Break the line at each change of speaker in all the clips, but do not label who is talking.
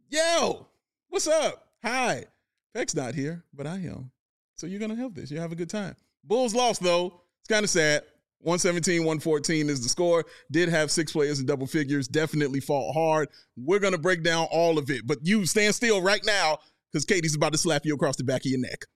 Yo, what's up? Hi. Peck's not here, but I am. So you're going to have this. You'll have a good time. Bulls lost, though. It's kind of sad. 117-114 is the score. Did have 6 players in double figures. Definitely fought hard. We're going to break down all of it. But you stand still right now because Katie's about to slap you across the back of your neck.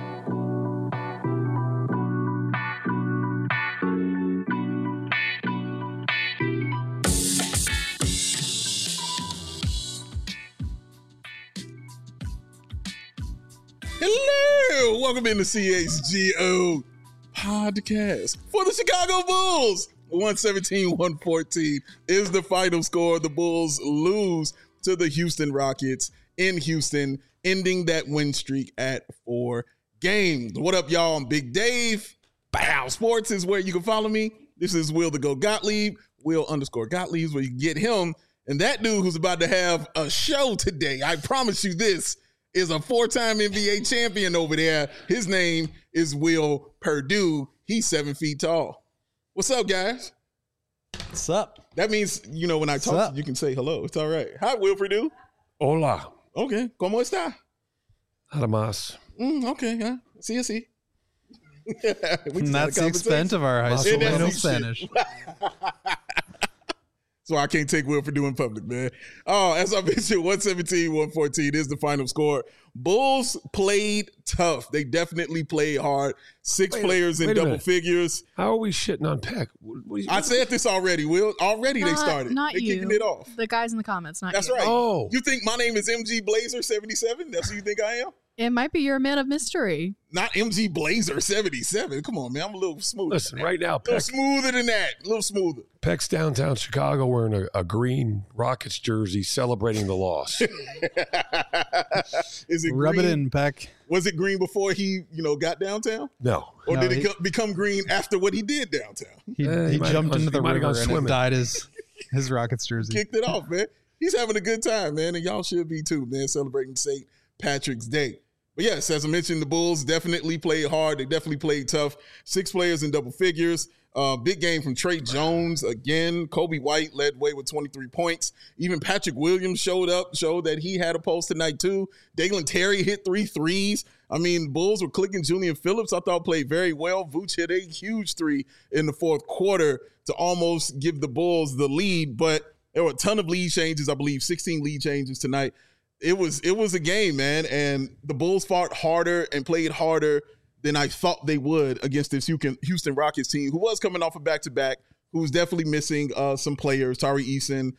Hello, welcome into CHGO podcast for the Chicago Bulls. 117-114 is the final score. The Bulls lose to the Houston Rockets in Houston, ending that win streak at 4 games. What up, y'all? I'm Big Dave. Bow Sports is where you can follow me. This is Will the Go Gottlieb, Will_Gottlieb is where you can get him. And that dude who's about to have a show today, I promise you this, is a 4-time NBA champion over there. His name is Will Perdue. He's 7 feet tall. What's up, guys?
What's up?
That means, you know, when I talk to you, you can say hello. It's all right. Hi, Will Perdue.
Hola.
Okay. ¿Cómo está?
Nada más.
Okay. Huh? Sí.
That's the extent of our high school Spanish.
So I can't take Will Perdue in public, man. Oh, as I mentioned, 117-114 is the final score. Bulls played tough. They definitely played hard. 6 players in double figures.
How are we shitting on Peck?
I said this already, Will. Already they started.
Not
They're kicking it off.
The guys in the comments, not
That's
you.
right.
Oh.
You think my name is MG Blazer 77? That's who you think I am?
It might be you're a man of mystery.
Not MG Blazer 77. Come on, man. I'm a little smoother.
Listen, right now,
A little
Peck,
smoother than that. A little smoother.
Peck's downtown Chicago wearing a green Rockets jersey celebrating the loss.
Is it
Rub
green?
it in, Peck.
Was it green before he, got downtown?
No.
Or
No,
did
he-
it become green after what he did downtown?
He
might have
jumped
gone-
into the
he might have
river
gone
and it
swimming.
dyed his Rockets jersey.
Kicked it off, man. He's having a good time, man, and y'all should be too, man, celebrating St. Patrick's Day. But yes, as I mentioned, the Bulls definitely played hard. They definitely played tough. 6 players in double figures. Big game from Trey Jones again. Kobe White led way with 23 points. Even Patrick Williams showed that he had a pulse tonight too. Dalen Terry hit 3 threes. I mean, the Bulls were clicking. Julian Phillips, I thought, played very well. Vooch hit a huge 3 in the fourth quarter to almost give the Bulls the lead, but there were a ton of lead changes. I believe 16 lead changes tonight. It was a game, man, and the Bulls fought harder and played harder than I thought they would against this Houston Rockets team, who was coming off a back-to-back, who's definitely missing some players. Tari Eason,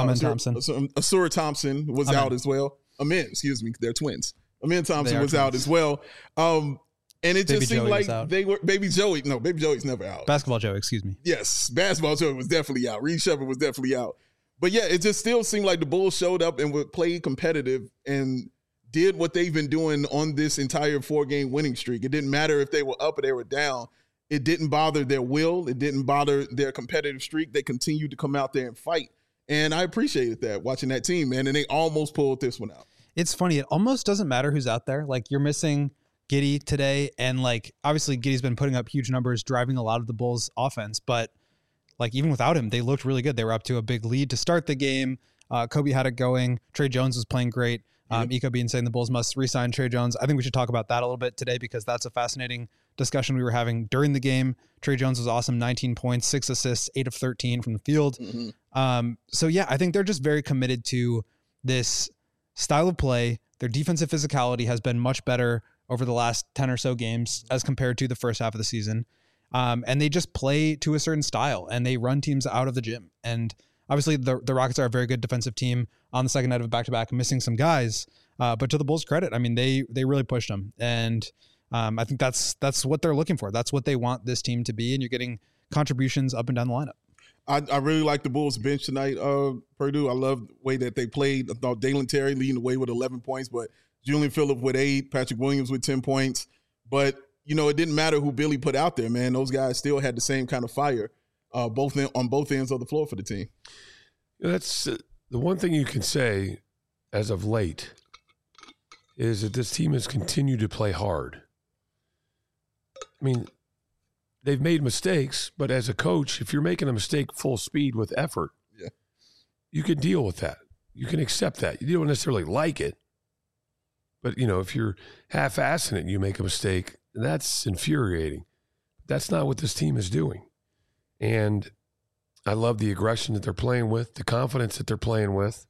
Asura Thompson was out as well. They're twins. Amin Thompson was out as well. And it
Baby
just seemed
Joey
like
was out.
they were Baby Joey. No, Baby Joey's never out.
Basketball Joe, excuse me.
Yes, Basketball Joey was definitely out. Reed Shepard was definitely out. But yeah, it just still seemed like the Bulls showed up and would play competitive and did what they've been doing on this entire 4-game winning streak. It didn't matter if they were up or they were down. It didn't bother their will. It didn't bother their competitive streak. They continued to come out there and fight. And I appreciated that, watching that team, man. And they almost pulled this one out.
It's funny. It almost doesn't matter who's out there. Like, you're missing Giddey today. And, like, obviously Giddey's been putting up huge numbers, driving a lot of the Bulls' offense. But, like, even without him, they looked really good. They were up to a big lead to start the game. Kobe had it going. Trey Jones was playing great. Iko being saying the Bulls must re-sign Trey Jones. I think we should talk about that a little bit today because that's a fascinating discussion we were having during the game. Trey Jones was awesome, 19 points, 6 assists, 8 of 13 from the field. So yeah, I think they're just very committed to this style of play. Their defensive physicality has been much better over the last 10 or so games as compared to the first half of the season. And they just play to a certain style and they run teams out of the gym. And obviously the Rockets are a very good defensive team on the second night of a back-to-back, missing some guys. But to the Bulls' credit, I mean, they really pushed them. And I think that's what they're looking for. That's what they want this team to be. And you're getting contributions up and down the lineup.
I really like the Bulls bench tonight, Purdue. I love the way that they played. I thought Dalen Terry leading the way with 11 points, but Julian Phillips with 8, Patrick Williams with 10 points. But, it didn't matter who Billy put out there, man. Those guys still had the same kind of fire on both ends of the floor for the team.
That's the one thing you can say as of late is that this team has continued to play hard. I mean, they've made mistakes, but as a coach, if you're making a mistake full speed with effort, you can deal with that. you can accept that. You don't necessarily like it. But, if you're half-assing it and you make a mistake, that's infuriating. That's not what this team is doing. And I love the aggression that they're playing with, the confidence that they're playing with.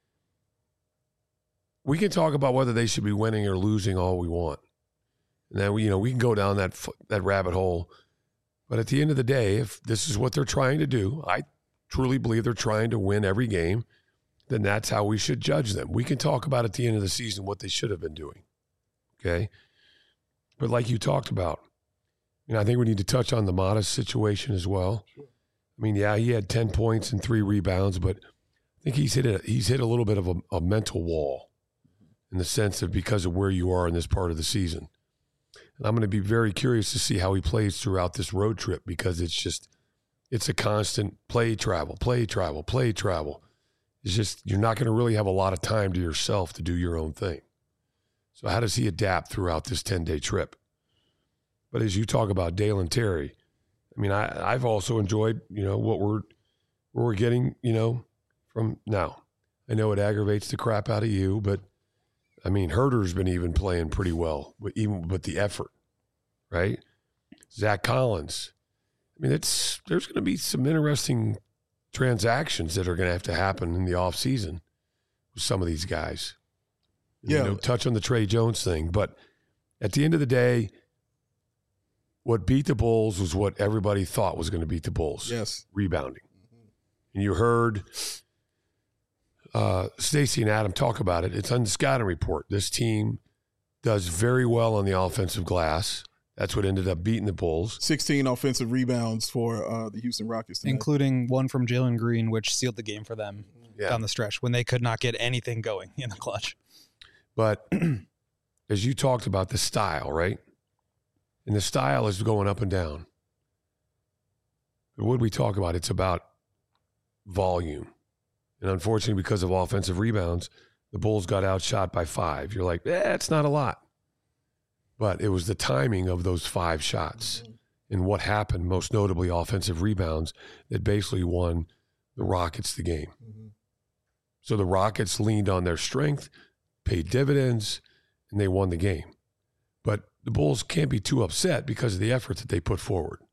We can talk about whether they should be winning or losing all we want. And then, we can go down that rabbit hole. But at the end of the day, if this is what they're trying to do, I truly believe they're trying to win every game, then that's how we should judge them. We can talk about at the end of the season what they should have been doing. Okay? But like you talked about, I think we need to touch on the Modest situation as well. Sure. He had 10 points and 3 rebounds, but I think he's hit a little bit of a mental wall in the sense of because of where you are in this part of the season. And I'm going to be very curious to see how he plays throughout this road trip because it's a constant play, travel. It's just you're not going to really have a lot of time to yourself to do your own thing. So how does he adapt throughout this 10-day trip? But as you talk about Dalen Terry, I've also enjoyed, what we're getting, from now. I know it aggravates the crap out of you, but Herder's been even playing pretty well, even with the effort, right? Zach Collins. There's going to be some interesting transactions that are going to have to happen in the offseason with some of these guys.
Yeah.
Touch on the Trey Jones thing. But at the end of the day, what beat the Bulls was what everybody thought was going to beat the Bulls.
Yes.
Rebounding. And you heard Stacey and Adam talk about it. It's on the scouting report. This team does very well on the offensive glass. That's what ended up beating the Bulls.
16 offensive rebounds for the Houston Rockets tonight.
Including one from Jalen Green, which sealed the game for them down the stretch when they could not get anything going in the clutch.
But as you talked about the style, right? And the style is going up and down. But what did we talk about? It's about volume. And unfortunately, because of offensive rebounds, the Bulls got outshot by 5. You're like, it's not a lot. But it was the timing of those 5 shots and what happened, most notably offensive rebounds, that basically won the Rockets the game. Mm-hmm. So the Rockets leaned on their strength, paid dividends, and they won the game. But the Bulls can't be too upset because of the effort that they put forward.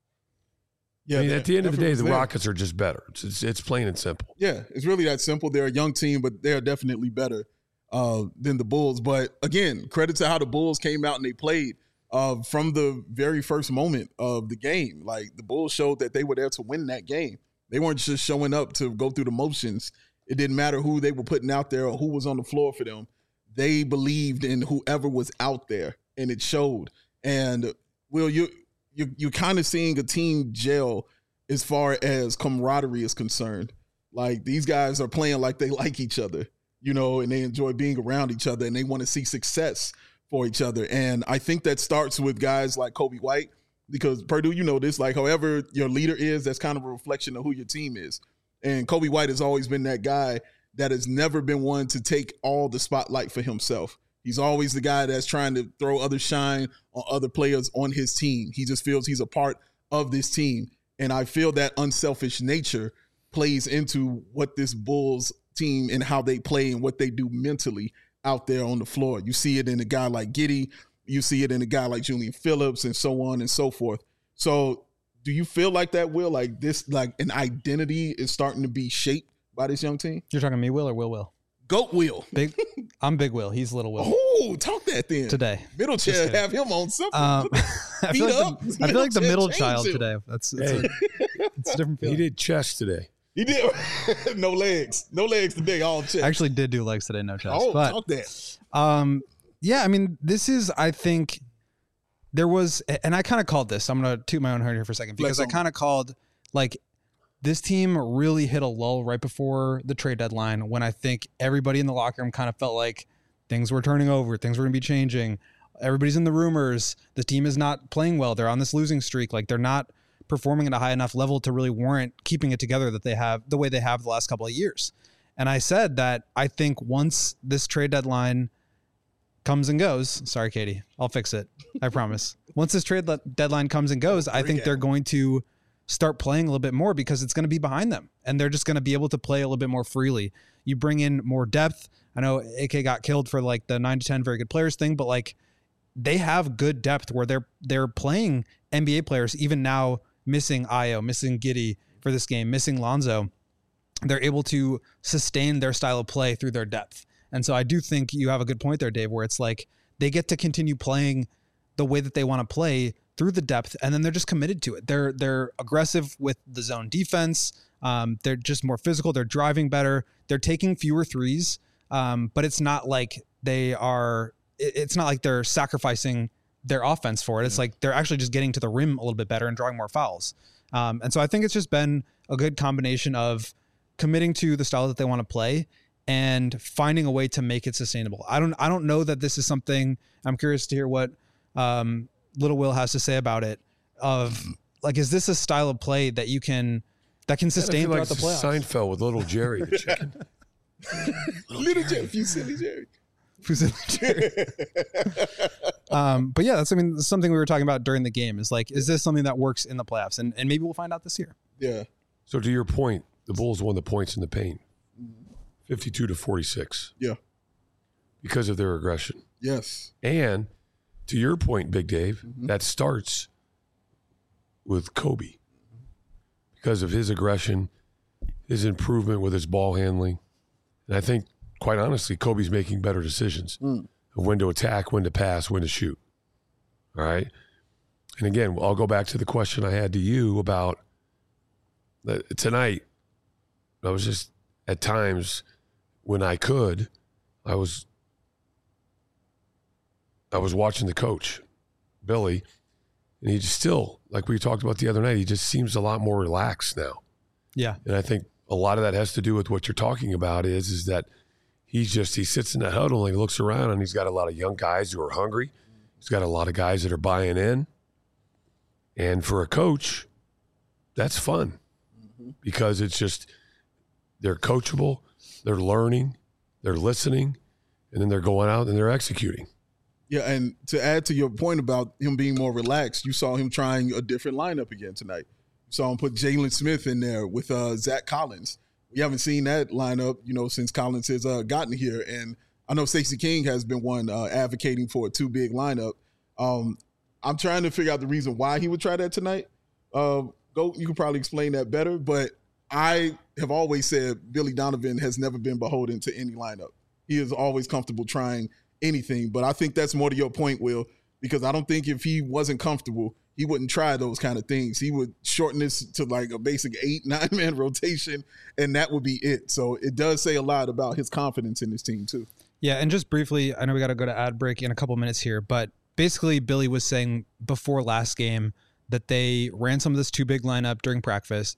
Yeah,
at the end of the day, the Rockets are just better. It's plain and simple.
Yeah, it's really that simple. They're a young team, but they're definitely better than the Bulls. But again, credit to how the Bulls came out and they played from the very first moment of the game. Like the Bulls showed that they were there to win that game. They weren't just showing up to go through the motions. It didn't matter who they were putting out there or who was on the floor for them. They believed in whoever was out there, and it showed. And Will, you're kind of seeing a team gel as far as camaraderie is concerned. Like these guys are playing like they like each other, and they enjoy being around each other and they want to see success for each other. And I think that starts with guys like Kobe White, because Purdue, this, like however your leader is, that's kind of a reflection of who your team is. And Kobe White has always been that guy that has never been one to take all the spotlight for himself. He's always the guy that's trying to throw other shine on other players on his team. He just feels he's a part of this team. And I feel that unselfish nature plays into what this Bulls team and how they play and what they do mentally out there on the floor. You see it in a guy like Giddey. You see it in a guy like Julian Phillips and so on and so forth. So do you feel like that, Will? Like this, like an identity is starting to be shaped by this young team?
You're talking me, Will, or Will?
Goat Will.
I'm Big Will. He's Little Will.
Oh, talk that then.
Today.
Middle chair, have him on something.
I feel like the middle child today. It's a different feeling.
He did chest today.
He did. No legs. No legs today, all chest.
I actually did do legs today, no chest.
Oh,
but,
talk that.
Yeah, this is, I think, there was, and I kind of called this. I'm going to toot my own horn here for a second, because I kind of called, like, this team really hit a lull right before the trade deadline when I think everybody in the locker room kind of felt like things were turning over, things were going to be changing. Everybody's in the rumors. The team is not playing well. They're on this losing streak. Like, they're not performing at a high enough level to really warrant keeping it together that they have the way they have the last couple of years. And I said that I think once this trade deadline comes and goes, sorry, Katie, I'll fix it. I promise. Once this trade deadline comes and goes, I think they're going to start playing a little bit more because it's going to be behind them and they're just going to be able to play a little bit more freely. You bring in more depth. I know AK got killed for like the 9 to 10 very good players thing, but like they have good depth where they're playing NBA players even now, missing Ayo, missing Giddey for this game, missing Lonzo. They're able to sustain their style of play through their depth. And so I do think you have a good point there, Dave, where it's like they get to continue playing the way that they want to play through the depth, and then they're just committed to it. They're aggressive with the zone defense. They're just more physical. They're driving better. They're taking fewer threes, but it's not like it's not like they're sacrificing their offense for it. It's like they're actually just getting to the rim a little bit better and drawing more fouls. And so I think it's just been a good combination of committing to the style that they want to play and finding a way to make it sustainable. I don't know that this is something. I'm curious to hear what Little Will has to say about it. Of like, is this a style of play that can sustain throughout the playoffs?
Seinfeld with Little Jerry the chicken.
Little Jerry, Fusilli Jerry.
But yeah, that's something we were talking about during the game is like, is this something that works in the playoffs? And maybe we'll find out this year.
Yeah.
So to your point, the Bulls won the points in the paint, 52-46.
Yeah.
Because of their aggression.
Yes.
And to your point, Big Dave, that starts with Kobe because of his aggression, his improvement with his ball handling. And I think, quite honestly, Kobe's making better decisions of when to attack, when to pass, when to shoot. All right? And again, I'll go back to the question I had to you about tonight. I was just, at times, when I could, I was watching the coach, Billy, and he just still, like we talked about the other night, he just seems a lot more relaxed now.
Yeah.
And I think a lot of that has to do with what you're talking about is that he sits in that huddle and he looks around and he's got a lot of young guys who are hungry. He's got a lot of guys that are buying in. And for a coach, that's fun because it's just, they're coachable, they're learning, they're listening, and then they're going out and they're executing.
Yeah, and to add to your point about him being more relaxed, you saw him trying a different lineup again tonight. You saw him put Jalen Smith in there with Zach Collins. We haven't seen that lineup, since Collins has gotten here. And I know Stacey King has been one advocating for a 2-big lineup. I'm trying to figure out the reason why he would try that tonight. You can probably explain that better, but I have always said Billy Donovan has never been beholden to any lineup. He is always comfortable trying anything, but I think that's more to your point, Will, because I don't think if he wasn't comfortable, he wouldn't try those kind of things. He would shorten this to like a basic 8-9-man rotation, and that would be it. So it does say a lot about his confidence in this team too. Yeah,
and just briefly, I know we got to go to ad break in a couple minutes here, but basically Billy was saying before last game that they ran some of this 2-big lineup during practice,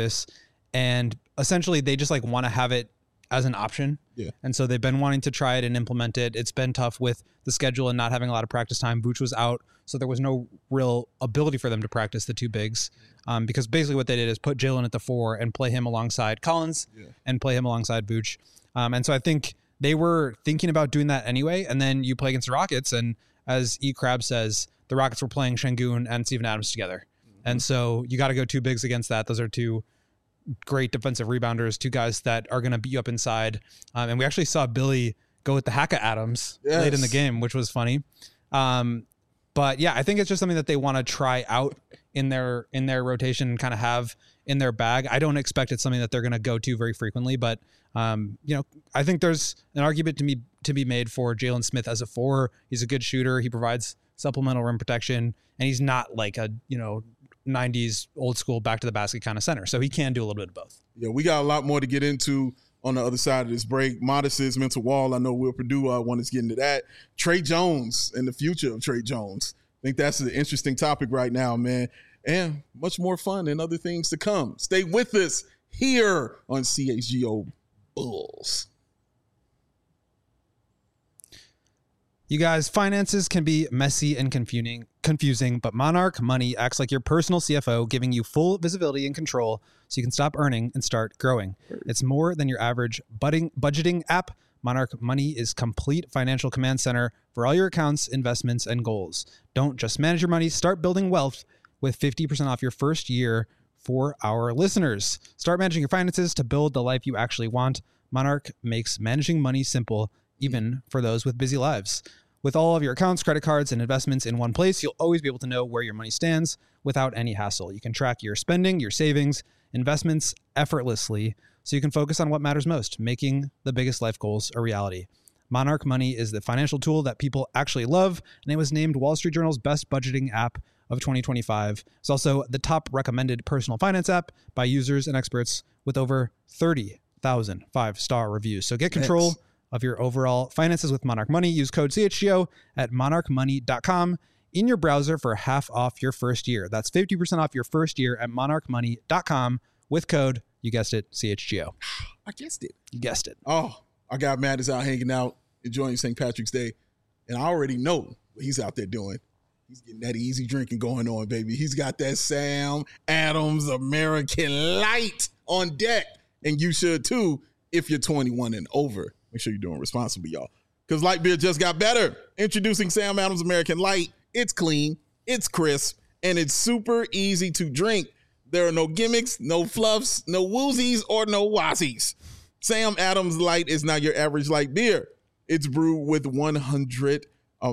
and essentially they just like want to have it as an option.
Yeah.
And so they've been wanting to try it and implement it. It's been tough with the schedule and not having a lot of practice time. Vooch was out, so there was no real ability for them to practice the 2 bigs. Because basically what they did is put Jalen at the 4 and play him alongside Collins and play him alongside Vooch. And so I think they were thinking about doing that anyway. And then you play against the Rockets, and as E. Crab says, the Rockets were playing Şengün and Steven Adams together. And so you got to go 2 bigs against that. Those are 2 great defensive rebounders, 2 guys that are going to beat you up inside. And we actually saw Billy go with the Haka Adams late in the game, which was funny. But yeah, I think it's just something that they want to try out in their rotation and kind of have in their bag. I don't expect it's something that they're going to go to very frequently, but I think there's an argument to be made for Jalen Smith as a 4. He's a good shooter. He provides supplemental rim protection, and he's not like a 90s old school back to the basket kind of center. So he can do a little bit of both.
Yeah, we got a lot more to get into on the other side of this break. Modest's mental wall. I know Will Purdue want us to get into that. Trey Jones and the future of Trey Jones. I think that's an interesting topic right now, man. And much more fun and other things to come. Stay with us here on CHGO Bulls.
You guys, finances can be messy and confusing, but Monarch Money acts like your personal CFO, giving you full visibility and control so you can stop earning and start growing. It's more than your average budgeting app. Monarch Money is complete financial command center for all your accounts, investments, and goals. Don't just manage your money, start building wealth with 50% off your first year for our listeners. Start managing your finances to build the life you actually want. Monarch makes managing money simple, even for those with busy lives. With all of your accounts, credit cards, and investments in one place, you'll always be able to know where your money stands without any hassle. You can track your spending, your savings, investments effortlessly, so you can focus on what matters most, making the biggest life goals a reality. Monarch Money is the financial tool that people actually love, and it was named Wall Street Journal's best budgeting app of 2025. It's also the top recommended personal finance app by users and experts with over 30,000 5-star reviews. So get control of your overall finances with Monarch Money. Use code CHGO at monarchmoney.com in your browser for half off your first year. That's 50% off your first year at monarchmoney.com with code, you guessed it, CHGO.
I guessed it.
You guessed it.
Oh, our guy Matt is out hanging out, enjoying St. Patrick's Day. And I already know what he's out there doing. He's getting that easy drinking going on, baby. He's got that Sam Adams American Light on deck. And you should too if you're 21 and over. Make sure you're doing responsibly, y'all. Because light beer just got better. Introducing Sam Adams American Light. It's clean, it's crisp, and it's super easy to drink. There are no gimmicks, no fluffs, no woozies, or no wazzies. Sam Adams Light is not your average light beer. It's brewed with 100%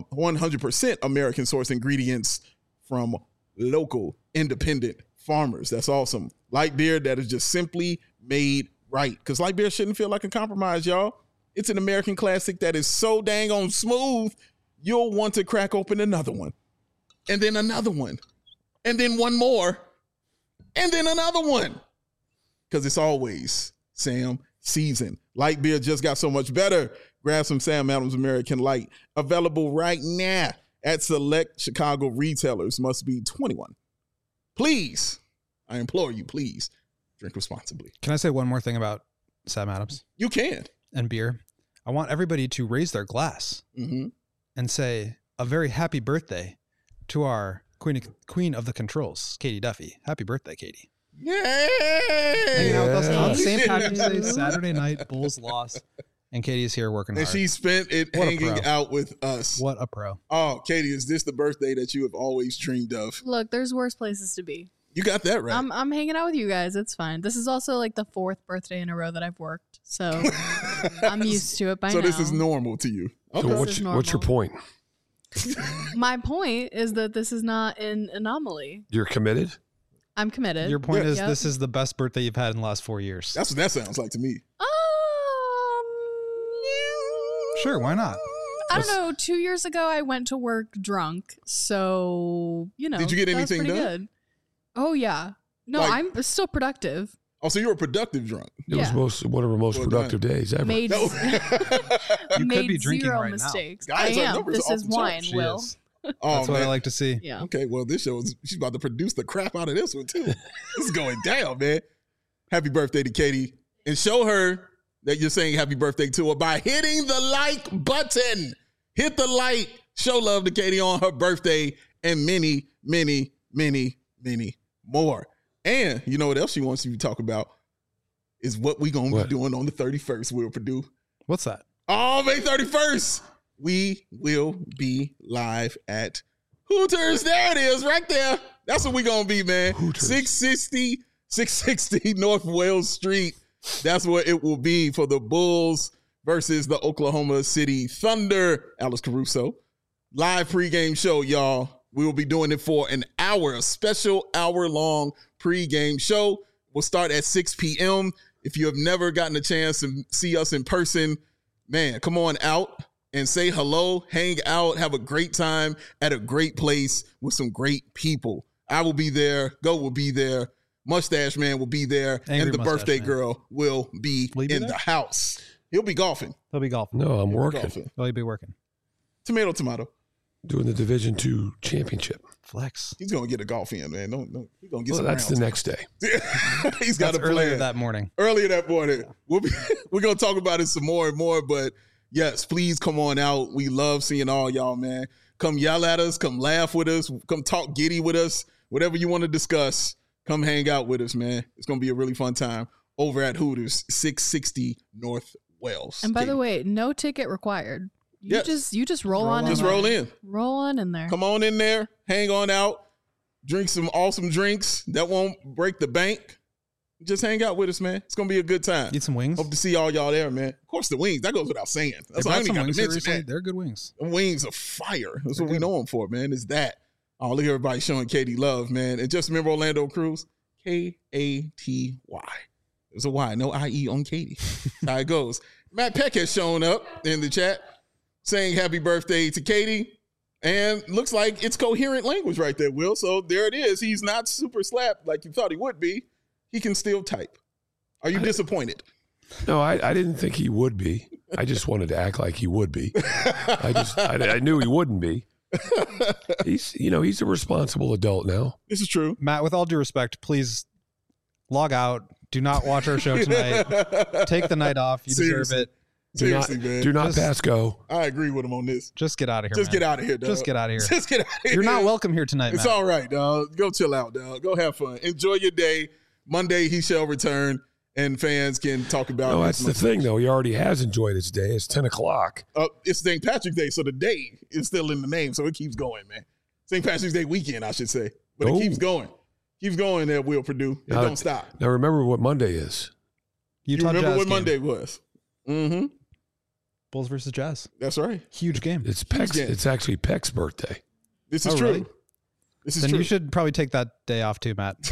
American source ingredients from local independent farmers. That's awesome. Light beer that is just simply made right. Because light beer shouldn't feel like a compromise, y'all. It's an American classic that is so dang on smooth, you'll want to crack open another one. And then another one. And then one more. And then another one. Because it's always Sam season. Light beer just got so much better. Grab some Sam Adams American Light. Available right now at select Chicago retailers. Must be 21. Please, I implore you, please, drink responsibly.
Can I say one more thing about Sam Adams?
You can.
And beer. I want everybody to raise their glass and say a very happy birthday to our queen of the controls, Katie Duffy. Happy birthday, Katie.
Yay!
Hanging out with us on St. Patrick's Day, Saturday night, Bulls lost, and Katie is here working hard.
And she spent it hanging out with us.
What a pro.
Oh, Katie, is this the birthday that you have always dreamed of?
Look, there's worse places to be.
You got that right.
I'm hanging out with you guys. It's fine. This is also like the 4th birthday in a row that I've worked, so I'm used to it by now.
So this is normal to you.
Okay. So what's your point?
My point is that this is not an anomaly.
You're committed?
I'm committed.
Your point is this is the best birthday you've had in the last 4 years.
That's what that sounds like to me.
Sure, why not?
I don't know. 2 years ago, I went to work drunk, so
Did you get anything done?
Good. Oh yeah. No, I'm still productive.
Oh, so you were productive drunk.
It was one of our most productive days ever.
Made
You could be drinking
zero
right
mistakes.
now. Guys,
I
our
am.
numbers
This
are
is
off the
wine,
charts.
She
Will.
is.
Oh,
That's what I
man.
like to see.
Yeah.
Okay, well, this show she's about to produce the crap out of this one too. This is going down, man. Happy birthday to Katie. And show her that you're saying happy birthday to her by hitting the like button. Hit the like. Show love to Katie on her birthday and many, many, many, many more. And you know what else she wants you to talk about is what we going to be doing on the 31st, Will Purdue.
What's that?
Oh, May 31st. We will be live at Hooters. There it is, right there. That's what we're going to be, man.
Hooters.
660 North Wales Street. That's what it will be for the Bulls versus the Oklahoma City Thunder. Alex Caruso. Live pregame show, y'all. We will be doing it for an hour, a special hour-long pregame show. We'll start at 6 p.m. If you have never gotten a chance to see us in person, man, come on out and say hello, hang out, have a great time at a great place with some great people. I will be there. Go will be there. Mustache Man will be there.
Angry
and the
Mustache
birthday
Man.
girl will be
Will he be
in
there?
the house. He'll be golfing.
He'll be golfing.
No, I'm
He'll be
working.
golfing.
He'll be working.
Tomato, tomato.
Doing the Division II championship.
Flex.
He's gonna get a golf in, man. No, he's gonna get
Well,
some
that's the
rounds.
next day.
He's got
That's
a
earlier
plan.
that morning.
Earlier that morning. We're gonna talk about it some more and more, but yes, please come on out. We love seeing all y'all, man. Come yell at us, come laugh with us, come talk giddy with us, whatever you want to discuss. Come hang out with us, man. It's gonna be a really fun time over at Hooters, 660 North Wales.
And by the
Katie.
way, no ticket required. You
Yes.
just roll on.
Just
in
roll
there.
in.
Roll on in there.
Come on in there, hang on out. drink some awesome drinks that won't break the bank. Just hang out with us, man. It's going to be a good time.
Eat some wings.
Hope to see all y'all there, man. Of course, the wings. That goes without saying. That's why I ain't got to mention that.
They're good wings.
The wings are fire. That's what we know them for, man, is that. Oh, look at everybody showing Katie love, man. And just remember Orlando Cruz, Katy. There's a Y, no IE on Katie. How it goes. Matt Peck has shown up in the chat saying happy birthday to Katie. And looks like it's coherent language right there, Will. So there it is. He's not super slapped like you thought he would be. He can still type. Are you disappointed?
No, I didn't think he would be. I just wanted to act like he would be. I knew he wouldn't be. He's a responsible adult now.
This is true.
Matt, with all due respect, please log out. Do not watch our show tonight. Take the night off. You deserve it.
Seriously, man.
Do not pass go.
I agree with him on this.
Just get out of here.
Just get out of here, dog.
Just get out of here.
Just get out of here.
You're not welcome here tonight,
It's
Matt.
all right, dog. Go chill out, dog. Go have fun. Enjoy your day. Monday, he shall return, and fans can talk about it.
No, that's the thing, though. He already has enjoyed his day. It's 10 o'clock.
It's St. Patrick's Day, so the day is still in the name, so it keeps going, man. St. Patrick's Day weekend, I should say. But it keeps going. Keeps going there, Will Purdue. It don't stop.
Now, remember what Monday is.
You remember what Monday was? Mm-hmm.
Bulls versus Jazz.
That's right.
Huge game.
It's actually Peck's birthday.
This is true.
Really?
This is
then
true.
you should probably take that day off too, Matt.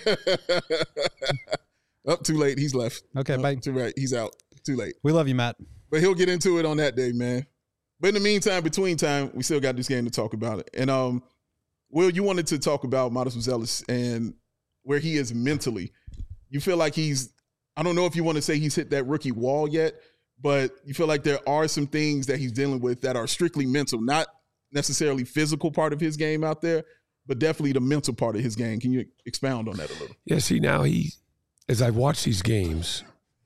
Too late. He's left.
Okay, bye.
Too right. He's out. Too late.
We love you, Matt.
But he'll get into it on that day, man. But in the meantime, between time, we still got this game to talk about it. And Will, you wanted to talk about Modest Zealous and where he is mentally. You feel like I don't know if you want to say he's hit that rookie wall yet, but you feel like there are some things that he's dealing with that are strictly mental, not necessarily physical part of his game out there, but definitely the mental part of his game. Can you expound on that a little?
Yeah, see, now as I've watched these games,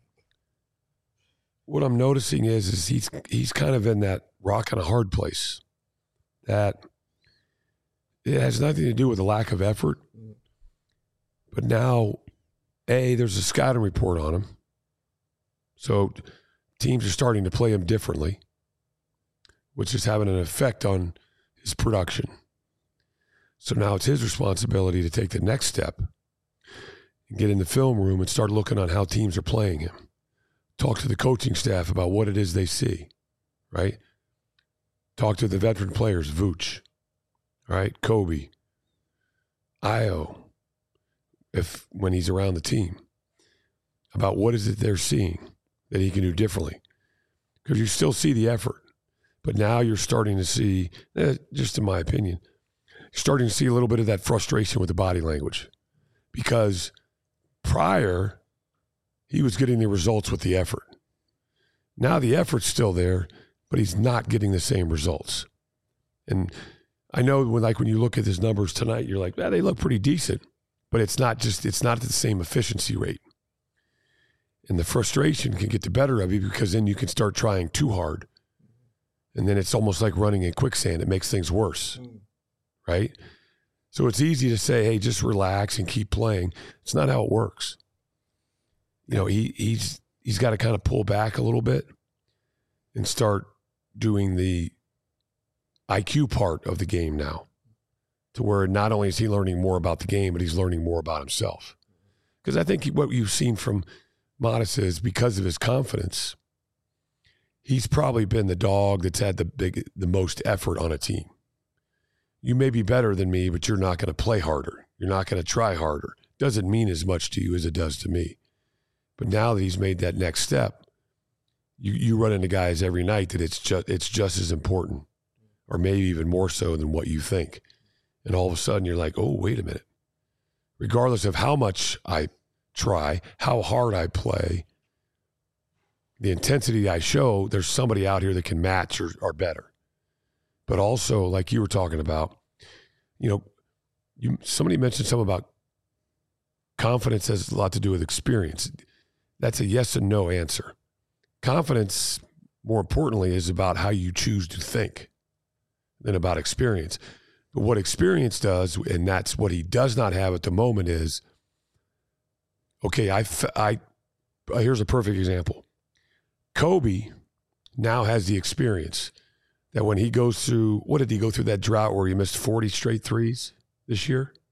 what I'm noticing is he's kind of in that rock and a hard place. That it has nothing to do with a lack of effort, but now, there's a scouting report on him. So teams are starting to play him differently, which is having an effect on his production. So now it's his responsibility to take the next step and get in the film room and start looking on how teams are playing him. Talk to the coaching staff about what it is they see, right? Talk to the veteran players, Vooch, right? Kobe, Io, when he's around the team, about what is it they're seeing that he can do differently. Because you still see the effort, but now you're starting to see, just in my opinion, you're starting to see a little bit of that frustration with the body language. Because prior, he was getting the results with the effort. Now the effort's still there, but he's not getting the same results. And I know when you look at his numbers tonight, you're like, they look pretty decent. But it's not at the same efficiency rate. And the frustration can get the better of you because then you can start trying too hard. And then it's almost like running in quicksand. It makes things worse, right? So it's easy to say, hey, just relax and keep playing. It's not how it works. He's got to kind of pull back a little bit and start doing the IQ part of the game now. To where not only is he learning more about the game, but he's learning more about himself. Because I think what you've seen from Modest is because of his confidence, he's probably been the dog that's had the most effort on a team. You may be better than me, but you're not going to play harder. You're not going to try harder. Doesn't mean as much to you as it does to me. But now that he's made that next step, you run into guys every night that it's just as important, or maybe even more so than what you think. And all of a sudden you're like, oh, wait a minute. Regardless of how much I try, how hard I play, the intensity I show, there's somebody out here that can match or better. But also, like you were talking about, somebody mentioned something about confidence has a lot to do with experience. That's a yes and no answer. Confidence, more importantly, is about how you choose to think than about experience. But what experience does, and that's what he does not have at the moment, is, okay, here's a perfect example. Kobe now has the experience that when he goes through, what did he go through that drought where he missed 40 straight threes this year?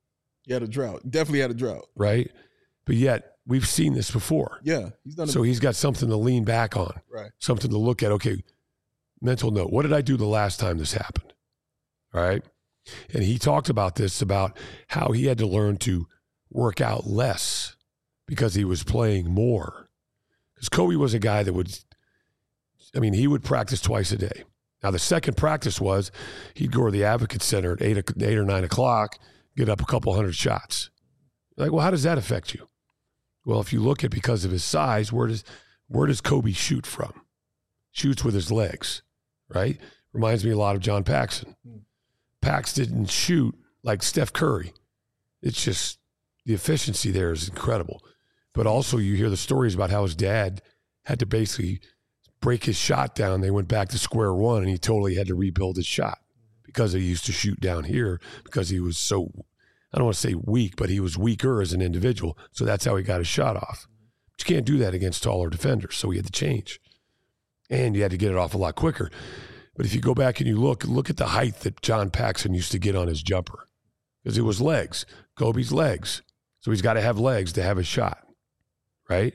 He had a drought. Definitely had a drought.
right? But yet we've seen this before.
Yeah, he's done it.
So he's got something to lean back on,
Right.
something to look at. Okay, mental note. What did I do the last time this happened? All right. And he talked about this, about how he had to learn to work out less because he was playing more. Because Kobe was a guy that he would practice twice a day. Now, the second practice was he'd go to the Advocate Center at 8 or 9 o'clock, get up a couple hundred shots. Like, well, how does that affect you? Well, if you look at, because of his size, where does Kobe shoot from? Shoots with his legs, right? Reminds me a lot of John Paxson. Pax didn't shoot like Steph Curry. It's just the efficiency there is incredible. But also you hear the stories about how his dad had to basically break his shot down. They went back to square one, and he totally had to rebuild his shot because he used to shoot down here because he was so, I don't want to say weak, but he was weaker as an individual. So that's how he got his shot off. But you can't do that against taller defenders. So he had to change. And you had to get it off a lot quicker. But if you go back and you look at the height that John Paxson used to get on his jumper, because it was legs, Kobe's legs. So he's got to have legs to have a shot, right?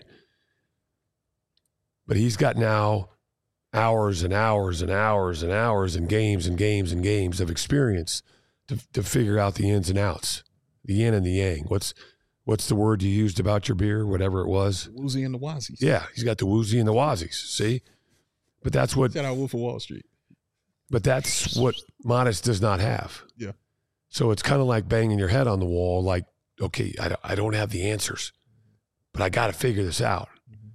But he's got now hours and hours and hours and hours and games and games and games of experience to figure out the ins and outs, the yin and the yang. What's the word you used about your beer, whatever it was?
The woozy and the wazies.
Yeah, he's got the woozy and the wazies, see? But that's what...
Shout out Wolf of Wall Street.
But that's what Modest does not have.
Yeah.
So it's kind of like banging your head on the wall, like, okay, I don't have the answers, but I got to figure this out.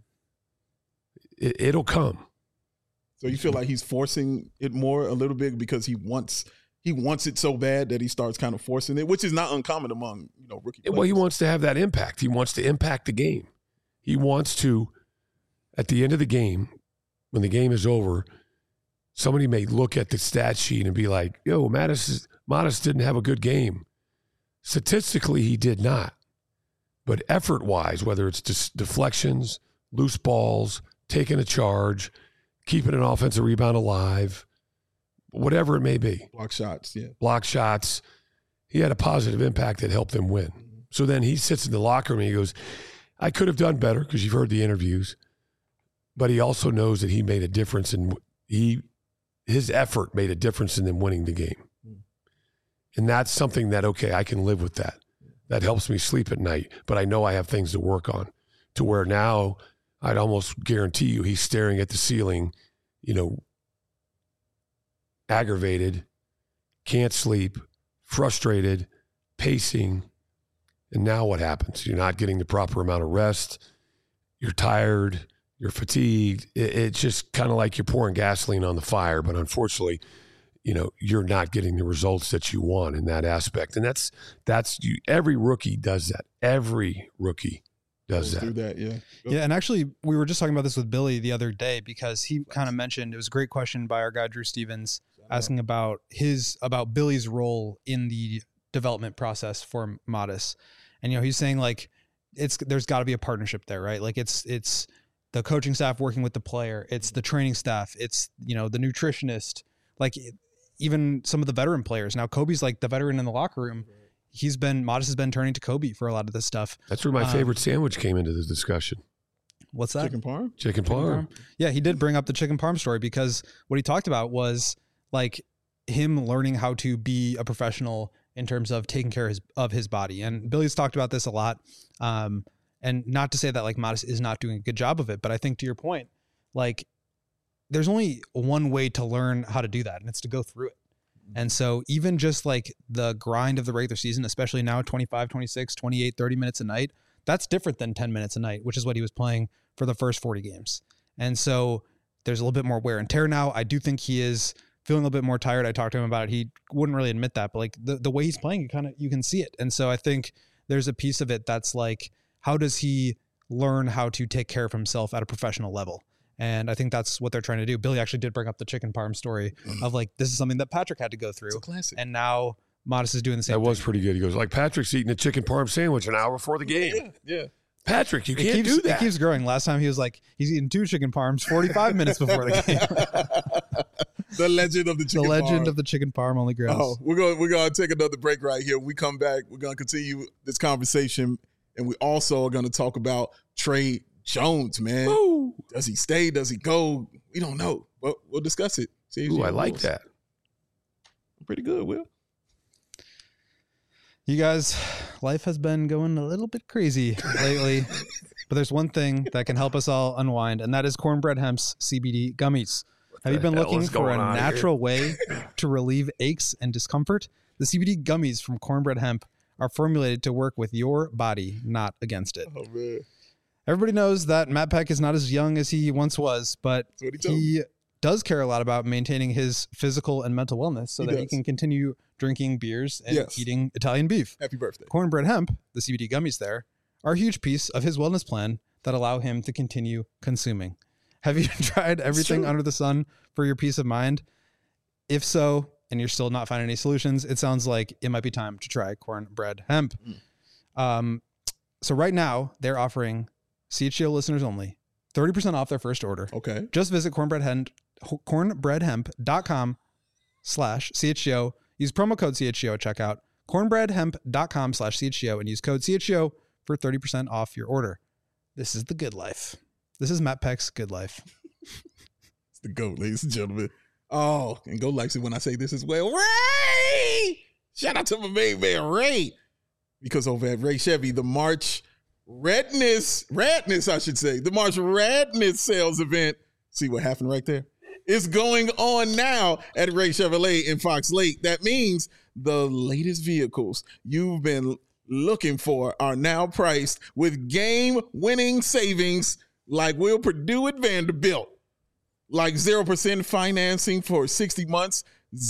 It'll come.
So you feel like he's forcing it more a little bit because he wants it so bad that he starts kind of forcing it, which is not uncommon among rookie players.
Well, he wants to have that impact. He wants to impact the game. He wants to, at the end of the game, when the game is over, somebody may look at the stat sheet and be like, yo, Modest didn't have a good game. Statistically, he did not. But effort-wise, whether it's deflections, loose balls, taking a charge, keeping an offensive rebound alive, whatever it may be.
Block shots, yeah.
Block shots. He had a positive impact that helped them win. So then he sits in the locker room and he goes, I could have done better, because you've heard the interviews. But he also knows that he made a difference, and his effort made a difference in them winning the game. And that's something that, okay, I can live with that. That helps me sleep at night. But I know I have things to work on, to where now I'd almost guarantee you he's staring at the ceiling, aggravated, can't sleep, frustrated, pacing. And now what happens? You're not getting the proper amount of rest. You're tired. You're fatigued. It's just kind of like you're pouring gasoline on the fire. But unfortunately, you're not getting the results that you want in that aspect. And every rookie does that. Every rookie does that.
Do that, yeah.
Yeah, and actually, we were just talking about this with Billy the other day, because he kind of mentioned, it was a great question by our guy Drew Stevens, asking about Billy's role in the development process for Modest. And he's saying, like, there's got to be a partnership there, right? Like it's the coaching staff working with the player, it's the training staff, it's the nutritionist, like even some of the veteran players. Now Kobe's like the veteran in the locker room. Modest has been turning to Kobe for a lot of this stuff.
That's where my favorite sandwich came into the discussion.
What's that?
Chicken parm?
Chicken parm.
Yeah, he did bring up the chicken parm story, because what he talked about was like him learning how to be a professional in terms of taking care of his body. And Billy's talked about this a lot. And not to say that like Modest is not doing a good job of it, but I think to your point, like there's only one way to learn how to do that, and it's to go through it. And so even just like the grind of the regular season, especially now 25, 26, 28, 30 minutes a night, that's different than 10 minutes a night, which is what he was playing for the first 40 games. And so there's a little bit more wear and tear now. I do think he is feeling a little bit more tired. I talked to him about it. He wouldn't really admit that, but like the way he's playing, you can see it. And so I think there's a piece of it that's like, how does he learn how to take care of himself at a professional level? And I think that's what they're trying to do. Billy actually did bring up the chicken parm story of like, this is something that Patrick had to go through.
It's a classic.
And now Modest is doing the same thing.
That was pretty good. He goes, like, Patrick's eating a chicken parm sandwich an hour before the game.
Yeah.
Patrick, you can't do that.
It keeps growing. Last time he was like, he's eating 2 chicken parms 45 minutes before the game.
The legend of the chicken
The legend
parm.
of the chicken parm only grows.
Oh, we're gonna take another break right here. When we come back, we're gonna continue this conversation, and we also are gonna talk about Trey Jones, man.
Ooh,
Does he stay? Does he go? We don't know, but we'll discuss it.
ooh, I like that.
Pretty good, Will.
You guys, life has been going a little bit crazy lately, but there's one thing that can help us all unwind, and that is Cornbread Hemp's CBD gummies. Have you been
hell
looking
is
for a
going on
natural way to relieve aches and discomfort? The CBD gummies from Cornbread Hemp are formulated to work with your body, not against it.
Oh man,
Everybody knows that Matt Peck is not as young as he once was, but
that's what he told me.
he does care a lot about maintaining his physical and mental wellness so
He
that he
does.
can continue drinking beers and
Yes.
eating Italian beef.
Happy birthday.
Cornbread Hemp, the CBD gummies there, are a huge piece of his wellness plan that allow him to continue consuming. Have you tried everything
true.
under the sun for your peace of mind? If so, and you're still not finding any solutions, it sounds like it might be time to try Cornbread Hemp. So right now, they're offering CHGO listeners only 30% off their first order.
Okay.
Just visit cornbreadhemp.com/CHGO. Use promo code CHGO at checkout. Cornbreadhemp.com/CHGO and use code CHGO for 30% off your order. This is the good life. This is Matt Peck's good life.
It's the GOAT, ladies and gentlemen. Oh, and GOAT likes it when I say this as well. Ray! Shout out to my main man, Ray. Because over at Ray Chevy, the March Radness, I should say, the March Radness sales event. See what happened right there? It's going on now at Ray Chevrolet in Fox Lake. That means the latest vehicles you've been looking for are now priced with game-winning savings like Will Purdue at Vanderbilt. Like 0% financing for 60 months,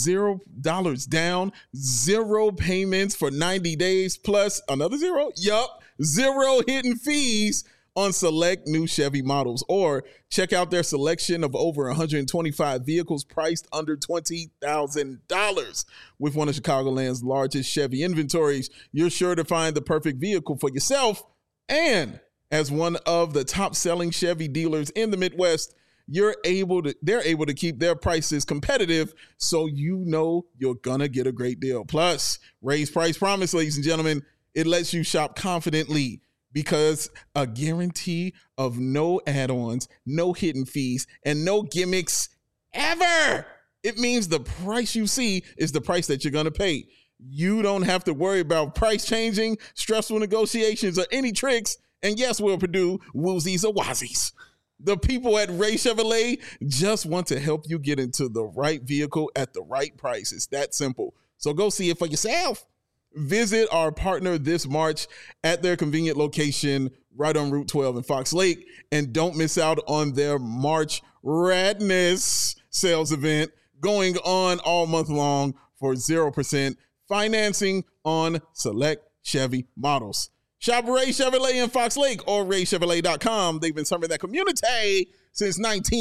$0 down, 0 payments for 90 days, plus another 0. Yup, 0 hidden fees on select new Chevy models. Or check out their selection of over 125 vehicles priced under $20,000. With one of Chicagoland's largest Chevy inventories, you're sure to find the perfect vehicle for yourself. And as one of the top-selling Chevy dealers in the Midwest, they're able to keep their prices competitive, so you know you're gonna get a great deal. Plus, Ray's Price Promise, ladies and gentlemen, it lets you shop confidently because a guarantee of no add-ons, no hidden fees, and no gimmicks ever. It means the price you see is the price that you're gonna pay. You don't have to worry about price changing, stressful negotiations, or any tricks. And yes, Will Purdue, woosies or wazies. The people at Ray Chevrolet just want to help you get into the right vehicle at the right price. It's that simple. So go see it for yourself. Visit our partner this March at their convenient location right on Route 12 in Fox Lake. And don't miss out on their March Radness sales event going on all month long for 0% financing on select Chevy models. Shop Ray Chevrolet in Fox Lake or RayChevrolet.com. They've been serving that community since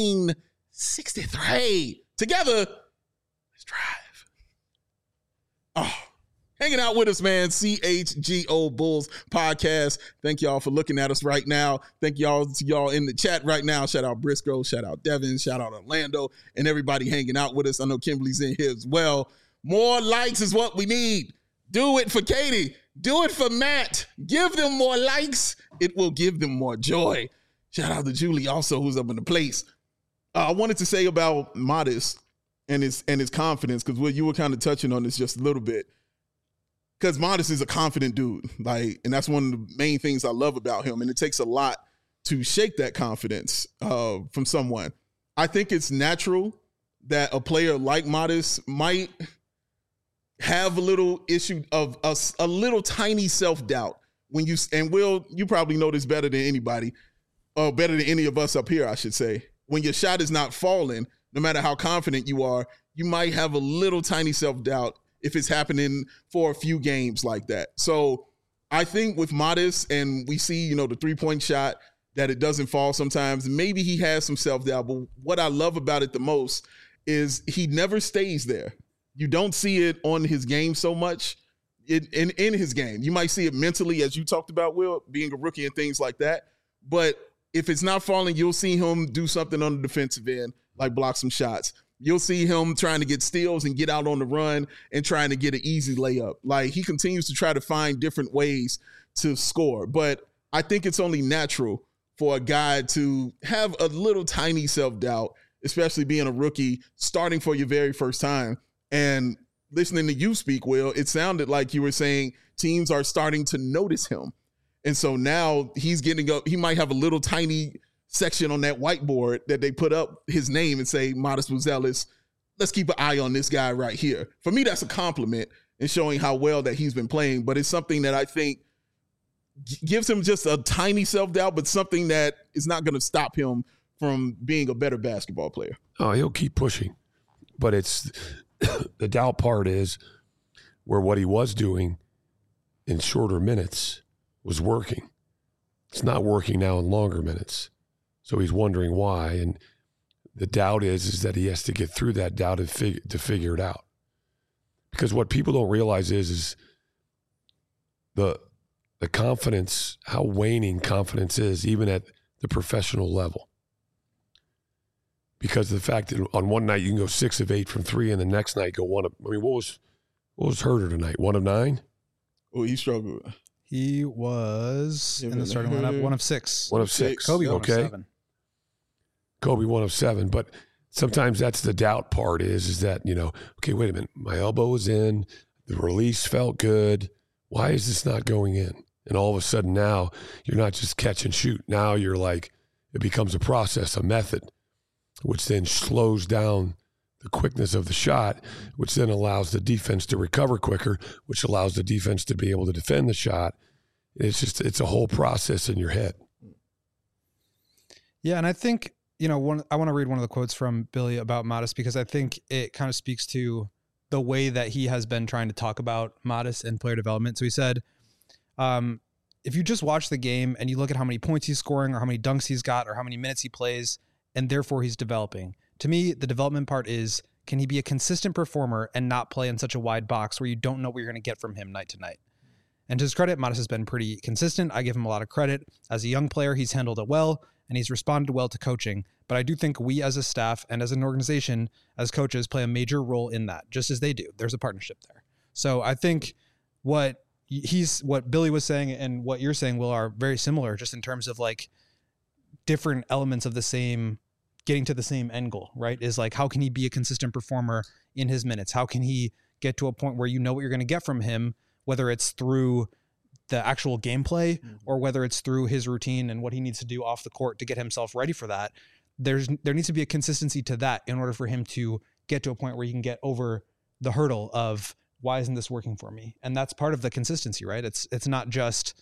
1963. Together, let's drive. Oh, hanging out with us, man. CHGO Bulls podcast. Thank y'all for looking at us right now. Thank y'all to y'all in the chat right now. Shout out Briscoe. Shout out Devin. Shout out Orlando and everybody hanging out with us. I know Kimberly's in here as well. More likes is what we need. Do it for Katie. Do it for Matt. Give them more likes. It will give them more joy. Shout out to Julie also, who's up in the place. I wanted to say about Modest and his confidence, because Will, you were kind of touching on this just a little bit. Because Modest is a confident dude, and that's one of the main things I love about him. And it takes a lot to shake that confidence from someone. I think it's natural that a player like Modest might have a little issue of a little tiny self-doubt when Will, you probably know this better than anybody, or better than any of us up here, I should say. When your shot is not falling, no matter how confident you are, you might have a little tiny self-doubt if it's happening for a few games like that. So I think with Modest, and we see, the 3-point shot, that it doesn't fall sometimes, maybe he has some self-doubt, but what I love about it the most is he never stays there. You don't see it on his game so much in his game. You might see it mentally, as you talked about, Will, being a rookie and things like that. But if it's not falling, you'll see him do something on the defensive end, like block some shots. You'll see him trying to get steals and get out on the run and trying to get an easy layup. Like, he continues to try to find different ways to score. But I think it's only natural for a guy to have a little tiny self-doubt, especially being a rookie, starting for your very first time. And listening to you speak, Will, it sounded like you were saying teams are starting to notice him. And so now he's getting up. He might have a little tiny section on that whiteboard that they put up his name and say, Modest Buzelis, let's keep an eye on this guy right here. For me, that's a compliment and showing how well that he's been playing. But it's something that I think gives him just a tiny self-doubt, but something that is not going to stop him from being a better basketball player.
Oh, he'll keep pushing. But it's the doubt part is where what he was doing in shorter minutes was working. It's not working now in longer minutes. So he's wondering why. And the doubt is that he has to get through that doubt to figure it out. Because what people don't realize is the confidence, how waning confidence is, even at the professional level. Because of the fact that on one night you can go 6 of 8 from 3, and the next night go 1 of. I mean, what was Herter tonight? 1 of 9.
Oh, he struggled.
He was in the starting lineup 1 of 6.
1 of 6.
Kobe,
okay.
1 of 7.
Kobe 1 of 7, but sometimes that's the doubt part is that, okay, wait a minute, my elbow is in, the release felt good. Why is this not going in? And all of a sudden now you're not just catch and shoot. Now you're like, it becomes a process, a method, which then slows down the quickness of the shot, which then allows the defense to recover quicker, which allows the defense to be able to defend the shot. It's a whole process in your head.
Yeah, and I think, I want to read one of the quotes from Billy about Modest, because I think it kind of speaks to the way that he has been trying to talk about Modest and player development. So he said, if you just watch the game and you look at how many points he's scoring or how many dunks he's got or how many minutes he plays, and therefore he's developing. To me, the development part is, can he be a consistent performer and not play in such a wide box where you don't know what you're going to get from him night to night? And to his credit, Modest has been pretty consistent. I give him a lot of credit. As a young player, he's handled it well, and he's responded well to coaching. But I do think we as a staff and as an organization, as coaches, play a major role in that, just as they do. There's a partnership there. So I think what Billy was saying and what you're saying, Will, are very similar, just in terms of like different elements of the same, getting to the same end goal, right? Is like, how can he be a consistent performer in his minutes? How can he get to a point where you know what you're going to get from him, whether it's through the actual gameplay or whether it's through his routine and what he needs to do off the court to get himself ready for that. There needs to be a consistency to that in order for him to get to a point where he can get over the hurdle of, why isn't this working for me? And that's part of the consistency, right? It's not just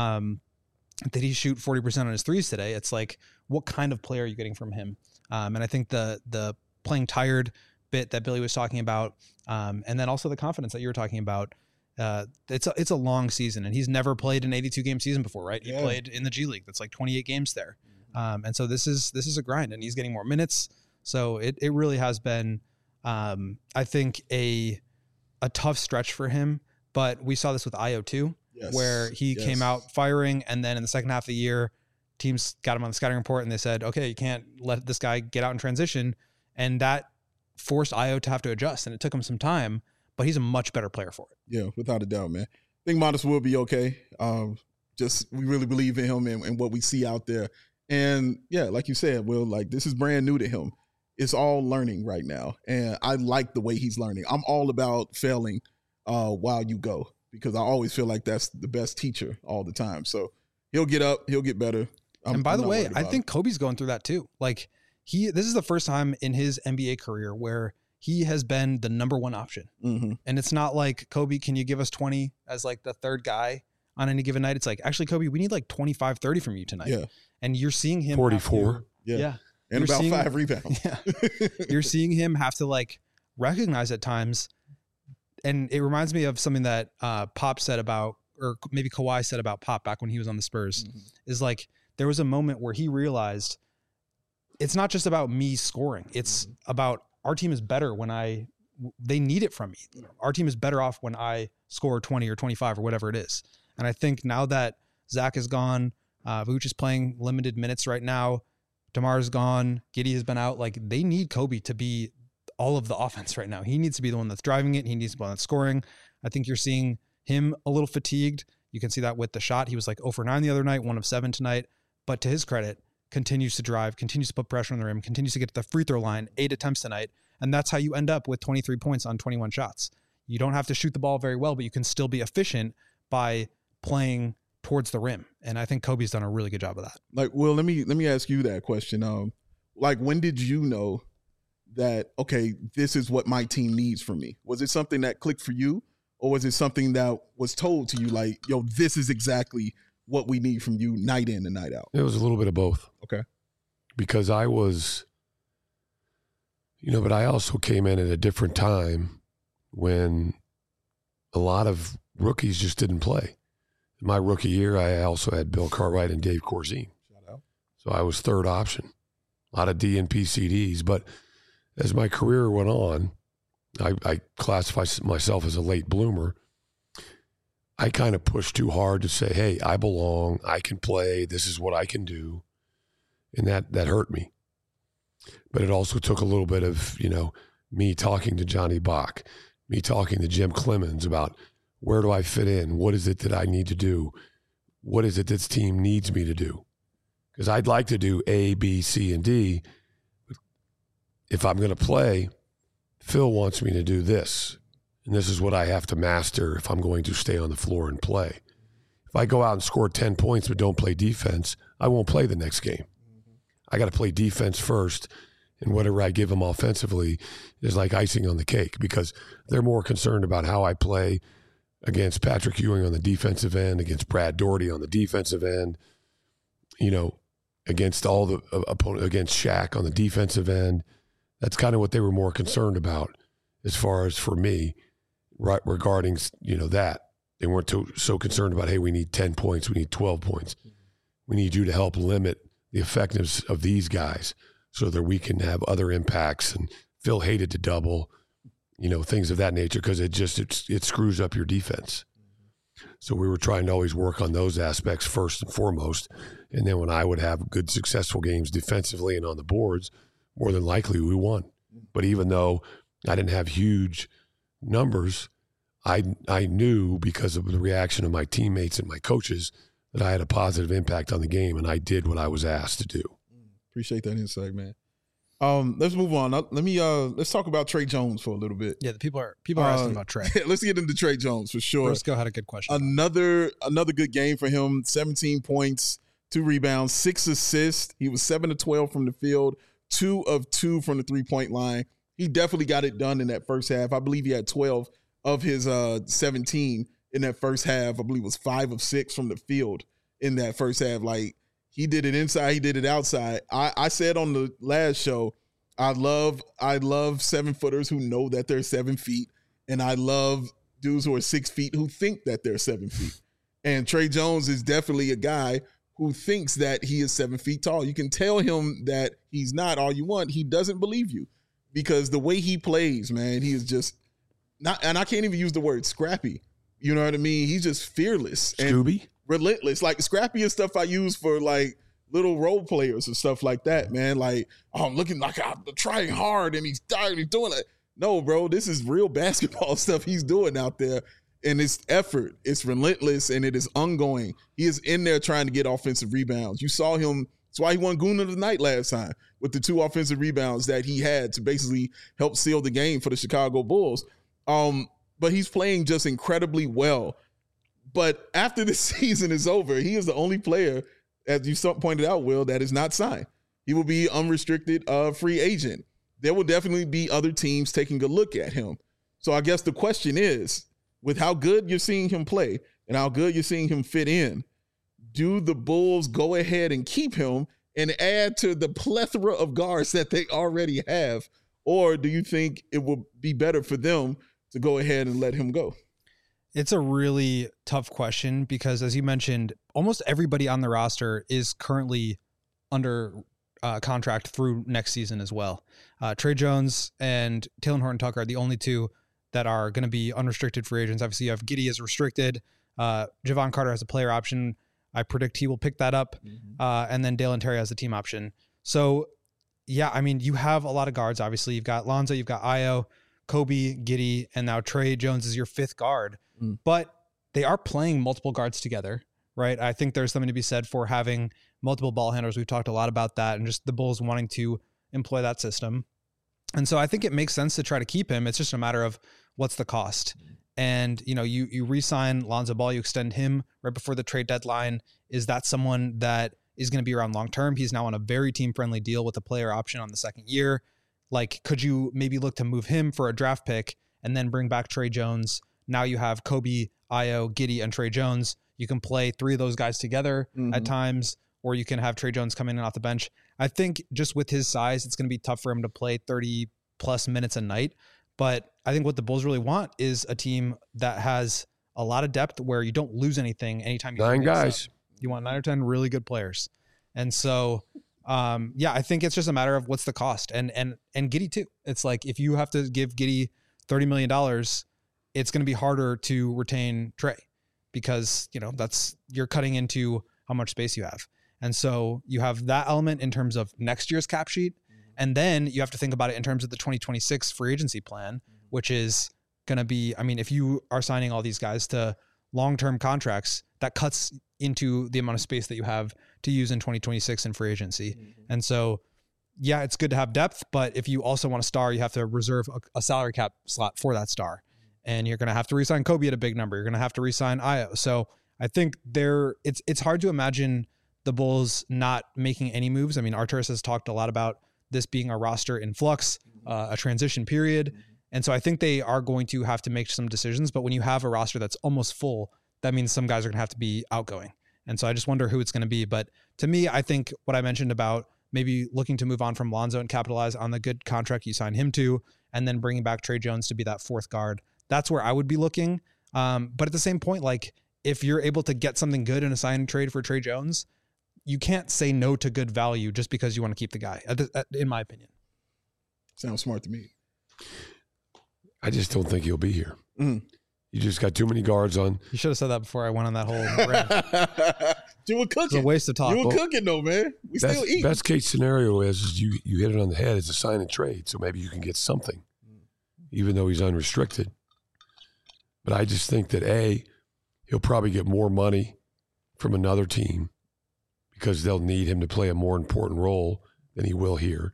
did he shoot 40% on his threes today? It's like, what kind of player are you getting from him? And I think the playing tired bit that Billy was talking about, and then also the confidence that you were talking about, it's a long season, and he's never played an 82 game season before, right? He played in the G League. That's like 28 games there. And so this is a grind, and he's getting more minutes. So it really has been, I think, a tough stretch for him, but we saw this with Ayo too, where he came out firing, and then in the second half of the year, teams got him on the scouting report and they said, okay, you can't let this guy get out in transition. And that forced Ayo to have to adjust, and it took him some time, but he's a much better player for it.
Yeah, without a doubt, man. I think Modest will be okay. We really believe in him and what we see out there. And yeah, like you said, Will, like, this is brand new to him. It's all learning right now. And I like the way he's learning. I'm all about failing while you go, because I always feel like that's the best teacher all the time. So he'll get up, he'll get better.
And by the way, I think Kobe's going through that too. Like, this is the first time in his NBA career where he has been the number one option. Mm-hmm. And it's not like, Kobe, can you give us 20 as like the third guy on any given night? It's like, actually, Kobe, we need like 25, 30 from you tonight. Yeah. And you're seeing him
44.
Yeah.
And about 5 rebounds.
Yeah. You're seeing him have to like recognize at times. And it reminds me of something that Pop said about, or maybe Kawhi said about Pop back when he was on the Spurs, is like, there was a moment where he realized it's not just about me scoring. It's about, our team is better when they need it from me. Our team is better off when I score 20 or 25 or whatever it is. And I think now that Zach is gone, Vooch is playing limited minutes right now, DeMar's gone, Giddey has been out, like, they need Kobe to be all of the offense right now. He needs to be the one that's driving it. He needs to be the one that's scoring. I think you're seeing him a little fatigued. You can see that with the shot. He was like 0 for 9 the other night, 1 of 7 tonight. But to his credit, continues to drive, continues to put pressure on the rim, continues to get to the free throw line, 8 attempts tonight. And that's how you end up with 23 points on 21 shots. You don't have to shoot the ball very well, but you can still be efficient by playing towards the rim. And I think Kobe's done a really good job of that.
Like, Will, let me ask you that question. Like, when did you know that, okay, this is what my team needs from me? Was it something that clicked for you, or was it something that was told to you like, yo, this is exactly what we need from you night in and night out?
It was a little bit of both.
Okay.
Because I was, but I also came in at a different time when a lot of rookies just didn't play. In my rookie year, I also had Bill Cartwright and Dave Corzine.
Shout out.
So I was third option. A lot of DNP CDs. But as my career went on, I classify myself as a late bloomer. I kind of pushed too hard to say, hey, I belong, I can play, this is what I can do. And that hurt me. But it also took a little bit of, me talking to Johnny Bach, me talking to Jim Clemens about where do I fit in? What is it that I need to do? What is it this team needs me to do? Because I'd like to do A, B, C, and D. But if I'm going to play, Phil wants me to do this. And this is what I have to master if I'm going to stay on the floor and play. If I go out and score 10 points but don't play defense, I won't play the next game. I got to play defense first, and whatever I give them offensively is like icing on the cake, because they're more concerned about how I play against Patrick Ewing on the defensive end, against Brad Daugherty on the defensive end, against all the opponent, against Shaq on the defensive end. That's kind of what they were more concerned about as far as for me, right, regarding, that. They weren't so concerned about, hey, we need 10 points, we need 12 points. We need you to help limit the effectiveness of these guys so that we can have other impacts. And Phil hated to double, things of that nature, because it screws up your defense. So we were trying to always work on those aspects first and foremost. And then when I would have good, successful games defensively and on the boards, more than likely we won. But even though I didn't have huge numbers, I knew, because of the reaction of my teammates and my coaches, that I had a positive impact on the game, and I did what I was asked to do.
Appreciate that insight, man. Let's move on. Let's talk about Tre Jones for a little bit.
Yeah, the people are asking about Tre.
Let's get into Tre Jones for sure.
Briscoe had a good question.
Another good game for him. 17 points, 2 rebounds, 6 assists. He was 7 of 12 from the field, 2 of 2 from the 3-point line. He definitely got it done in that first half. I believe he had 12 of his 17 in that first half. I believe it was 5 of 6 from the field in that first half. Like, he did it inside, he did it outside. I said on the last show, I love 7-footers who know that they're 7 feet, and I love dudes who are 6 feet who think that they're 7 feet. And Tre Jones is definitely a guy who thinks that he is 7 feet tall. You can tell him that he's not all you want. He doesn't believe you, because the way he plays, man, he is just not, and I can't even use the word scrappy. You know what I mean? He's just fearless.
Scooby?
And relentless. Like, scrappy is stuff I use for like little role players and stuff like that, man. Like, oh, I'm looking like I'm trying hard and he's tired, he's doing it. No, bro, this is real basketball stuff he's doing out there. And it's effort, it's relentless, and it is ongoing. He is in there trying to get offensive rebounds. You saw him. That's why he won Goon of the Night last time, with the 2 offensive rebounds that he had to basically help seal the game for the Chicago Bulls. But he's playing just incredibly well. But after this season is over, he is the only player, as you pointed out, Will, that is not signed. He will be unrestricted free agent. There will definitely be other teams taking a look at him. So I guess the question is, with how good you're seeing him play and how good you're seeing him fit in, do the Bulls go ahead and keep him and add to the plethora of guards that they already have? Or do you think it will be better for them to go ahead and let him go?
It's a really tough question, because, as you mentioned, almost everybody on the roster is currently under contract through next season as well. Tre Jones and Talen Horton-Tucker are the only 2 that are going to be unrestricted free agents. Obviously, you have Giddey as restricted. Javon Carter has a player option. I predict he will pick that up. And then Dalen Terry has the team option. So yeah, I mean, you have a lot of guards. Obviously, you've got Lonzo, you've got Ayo, Kobe, Giddey, and now Trey Jones is your fifth guard. But they are playing multiple guards together, right? I think there's something to be said for having multiple ball handlers. We've talked a lot about that, and just the Bulls wanting to employ that system. And so I think it makes sense to try to keep him. It's just a matter of what's the cost. And, you know, you re-sign Lonzo Ball, you extend him right before the trade deadline. Is that someone that is going to be around long-term? He's now on a very team-friendly deal with a player option on the second year. Like, could you maybe look to move him for a draft pick and then bring back Trey Jones? Now you have Kobe, Ayo, Giddey, and Trey Jones. You can play three of those guys together at times, or you can have Trey Jones come in and off the bench. I think just with his size, it's going to be tough for him to play 30-plus minutes a night. But I think what the Bulls really want is a team that has a lot of depth where you don't lose anything anytime you
9 guys.
You want 9 or 10 really good players. And so, yeah, I think it's just a matter of what's the cost. And Giddey too. It's like if you have to give Giddey $30 million, it's going to be harder to retain Trey because, you know, you're cutting into how much space you have. And so you have that element in terms of next year's cap sheet. And then you have to think about it in terms of the 2026 free agency plan, which is going to be, I mean, if you are signing all these guys to long-term contracts, that cuts into the amount of space that you have to use in 2026 in free agency. And so, yeah, it's good to have depth, but if you also want a star, you have to reserve a salary cap slot for that star. And you're going to have to re-sign Kobe at a big number. You're going to have to re-sign Ayo. So I think it's hard to imagine the Bulls not making any moves. I mean, Arturas has talked a lot about this being a roster in flux, a transition period. And so I think they are going to have to make some decisions. But when you have a roster that's almost full, that means some guys are going to have to be outgoing. And so I just wonder who it's going to be. But to me, I think what I mentioned about maybe looking to move on from Lonzo and capitalize on the good contract you signed him to, and then bringing back Trey Jones to be that fourth guard, that's where I would be looking. But at the same point, like if you're able to get something good in a sign and trade for Trey Jones, you can't say no to good value just because you want to keep the guy, in my opinion.
Sounds smart to me.
I just don't think he'll be here. You just got too many guards on.
You should have said that before I went on that whole rant.
You were cooking.
It's a waste of talk.
You were cooking though, man. We still eat.
Best case scenario is you hit it on the head. It's a sign and trade. So maybe you can get something, even though he's unrestricted. But I just think that he'll probably get more money from another team because they'll need him to play a more important role than he will here.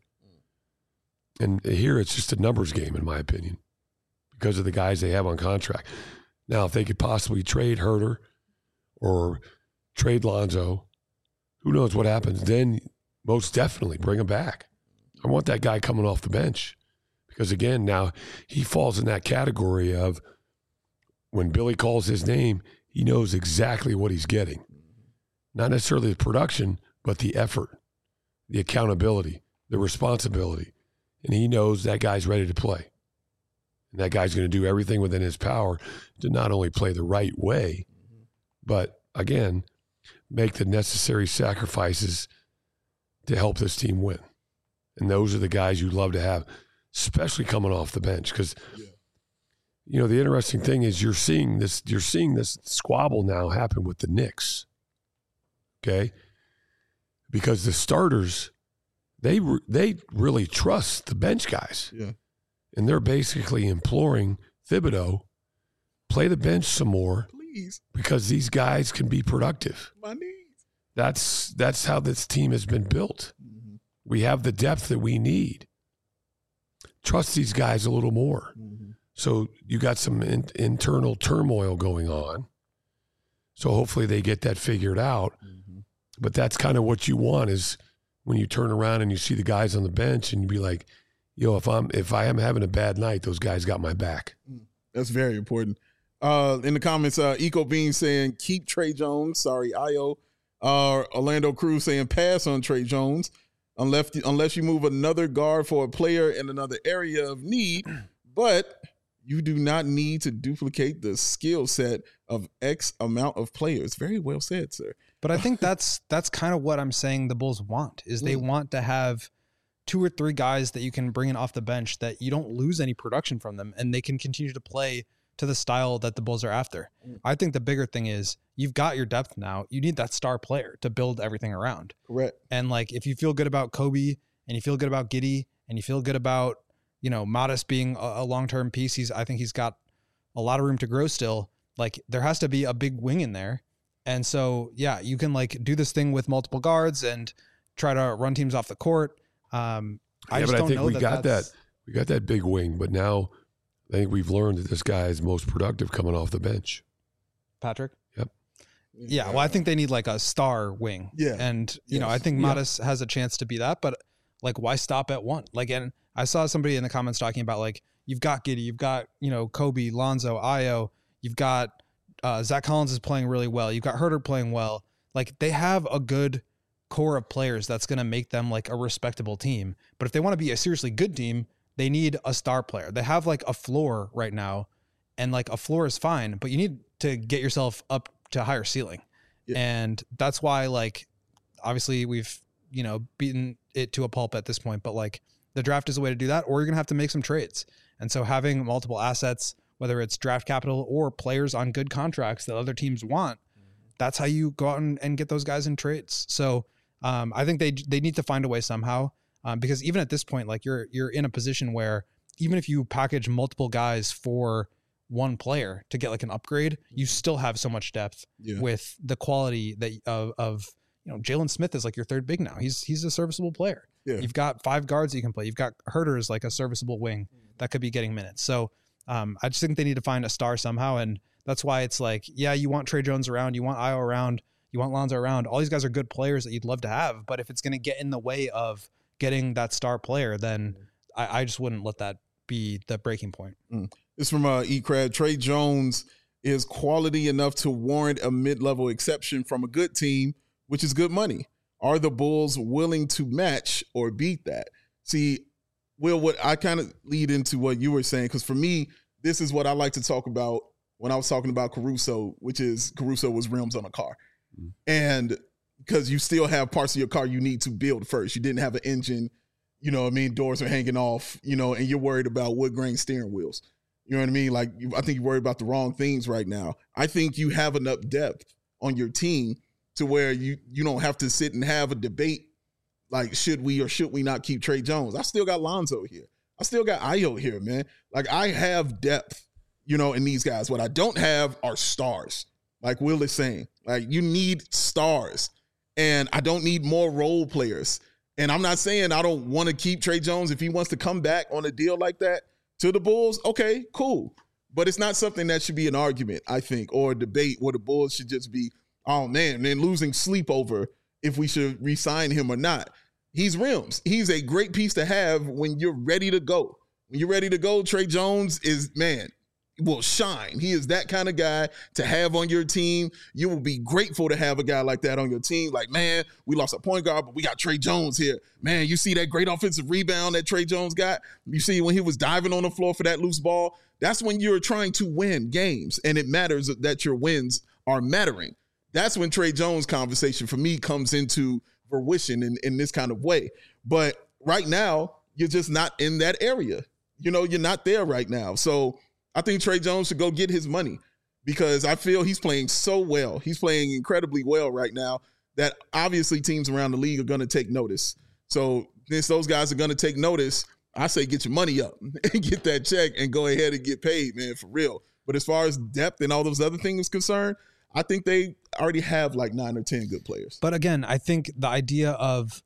And here it's just a numbers game, in my opinion, because of the guys they have on contract. Now, if they could possibly trade Herter or trade Lonzo, who knows what happens, then most definitely bring him back. I want that guy coming off the bench because, again, now he falls in that category of when Billy calls his name, he knows exactly what he's getting. Not necessarily the production, but the effort, the accountability, the responsibility. And he knows that guy's ready to play. And that guy's going to do everything within his power to not only play the right way, but, again, make the necessary sacrifices to help this team win. And those are the guys you love to have, especially coming off the bench. Because, you know, the interesting thing is you're seeing this squabble now happen with the Knicks. Okay? Because the starters, they really trust the bench guys.
Yeah.
And they're basically imploring Thibodeau, play the bench some more.
Please.
Because these guys can be productive.
My knees.
That's how this team has been built. We have the depth that we need. Trust these guys a little more. So you got some internal turmoil going on. So hopefully they get that figured out. But that's kind of what you want is when you turn around and you see the guys on the bench and you be like, yo, if I am having a bad night, those guys got my back.
That's very important. In the comments, Eco Bean saying, keep Trey Jones. Sorry, Ayo. Orlando Cruz saying, pass on Trey Jones unless you move another guard for a player in another area of need. But you do not need to duplicate the skill set of X amount of players. Very well said, sir.
But I think that's kind of what I'm saying the Bulls want, is they want to have 2 or 3 guys that you can bring in off the bench that you don't lose any production from them and they can continue to play to the style that the Bulls are after. I think the bigger thing is you've got your depth now. You need that star player to build everything around.
Correct.
And like if you feel good about Kobe and you feel good about Giddey, and you feel good about, Modest being a long-term piece. I think he's got a lot of room to grow still. Like, there has to be a big wing in there. And so, yeah, you can like do this thing with multiple guards and try to run teams off the court. I think
we got that big wing, but now I think we've learned that this guy is most productive coming off the bench.
Patrick?
Yep.
Yeah, well, I think they need like a star wing.
Yeah.
And, I think Modest has a chance to be that, but like, why stop at one? Like, and I saw somebody in the comments talking about like, you've got Giddey, you've got, Kobe, Lonzo, Ayo, you've got Zach Collins is playing really well. You've got Herter playing well. Like, they have a good core of players that's going to make them like a respectable team. But if they want to be a seriously good team, they need a star player. They have like a floor right now, and like a floor is fine, but you need to get yourself up to a higher ceiling. Yeah. And that's why, like, obviously we've, beaten it to a pulp at this point, but like the draft is a way to do that, or you're going to have to make some trades. And so having multiple assets, whether it's draft capital or players on good contracts that other teams want, that's how you go out and get those guys in trades. So I think they need to find a way somehow, because even at this point, like you're in a position where even if you package multiple guys for one player to get like an upgrade, you still have so much depth with the quality that of Jalen Smith is like your third big now. He's a serviceable player. Yeah. You've got 5 guards that you can play. You've got Herter as like a serviceable wing that could be getting minutes. So I just think they need to find a star somehow. And that's why it's like, yeah, you want Trey Jones around, you want Ayo around, you want Lonzo around. All these guys are good players that you'd love to have. But if it's going to get in the way of getting that star player, then I just wouldn't let that be the breaking point.
It's from eCrad. Trey Jones is quality enough to warrant a mid-level exception from a good team, which is good money. Are the Bulls willing to match or beat that? See, Will, what I kind of lead into what you were saying, because for me, this is what I like to talk about when I was talking about Caruso, which is Caruso was rims on a car. And because you still have parts of your car you need to build first. You didn't have an engine, doors are hanging off, and you're worried about wood grain steering wheels. You know what I mean? Like, I think you're worried about the wrong things right now. I think you have enough depth on your team to where you don't have to sit and have a debate like, should we or should we not keep Trey Jones? I still got Lonzo here. I still got Ayo here, man. Like, I have depth, in these guys. What I don't have are stars, like Will is saying. Like, you need stars, and I don't need more role players. And I'm not saying I don't want to keep Trey Jones. If he wants to come back on a deal like that to the Bulls, okay, cool. But it's not something that should be an argument, I think, or a debate where the Bulls should just be, oh, man, then losing sleep over if we should re-sign him or not. He's rims. He's a great piece to have when you're ready to go. When you're ready to go, Trey Jones will shine. He is that kind of guy to have on your team. You will be grateful to have a guy like that on your team. Like, man, we lost a point guard, but we got Trey Jones here. Man, you see that great offensive rebound that Trey Jones got? You see when he was diving on the floor for that loose ball? That's when you're trying to win games, and it matters that your wins are mattering. That's when Trey Jones conversation for me comes into fruition in this kind of way. But right now, you're just not in that area. You're not there right now. So I think Trey Jones should go get his money, because I feel he's playing so well. He's playing incredibly well right now that obviously teams around the league are going to take notice. So since those guys are going to take notice, I say get your money up and get that check and go ahead and get paid, man, for real. But as far as depth and all those other things concerned, I think they already have like 9 or 10 good players.
But again, I think the idea of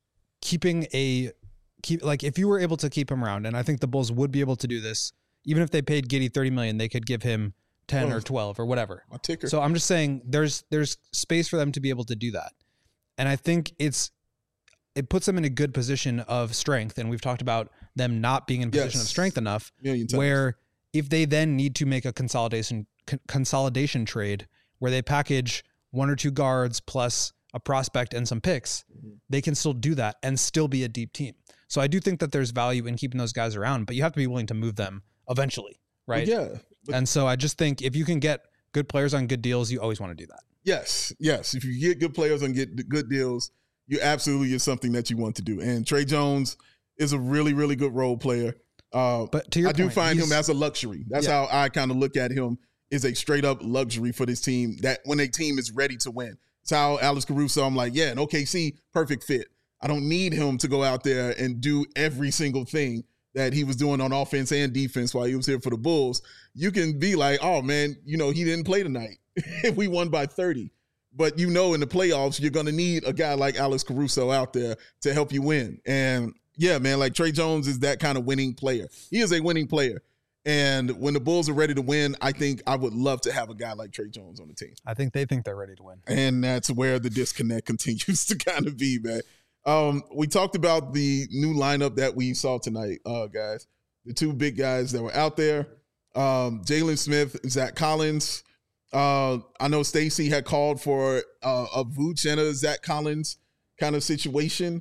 if you were able to keep him around, and I think the Bulls would be able to do this, even if they paid Giddey $30 million, they could give him 10 or 12 or whatever.
A ticker.
So I'm just saying there's space for them to be able to do that. And I think it puts them in a good position of strength. And we've talked about them not being in a position of strength enough, where if they then need to make a consolidation trade where they package 1 or 2 guards plus a prospect and some picks, they can still do that and still be a deep team. So I do think that there's value in keeping those guys around, but you have to be willing to move them eventually, right?
Yeah.
And so I just think if you can get good players on good deals, you always want to do that.
Yes. If you get good players and get good deals, you absolutely is something that you want to do. And Trey Jones is a really, really good role player.
But to your point,
I do find him as a luxury. That's how I kind of look at him, is a straight up luxury for this team, that when a team is ready to win. It's how Alex Caruso, I'm like, yeah, an OKC, perfect fit. I don't need him to go out there and do every single thing that he was doing on offense and defense while he was here for the Bulls. You can be like, oh, man, he didn't play tonight. We won by 30. But in the playoffs, you're going to need a guy like Alex Caruso out there to help you win. And, yeah, man, like Tre Jones is that kind of winning player. He is a winning player. And when the Bulls are ready to win, I think I would love to have a guy like Tre Jones on the team.
I think they think they're ready to win.
And that's where the disconnect continues to kind of be, man. We talked about the new lineup that we saw tonight, guys. The two big guys that were out there, Jalen Smith, Zach Collins. I know Stacey had called for a Vooch and a Zach Collins kind of situation.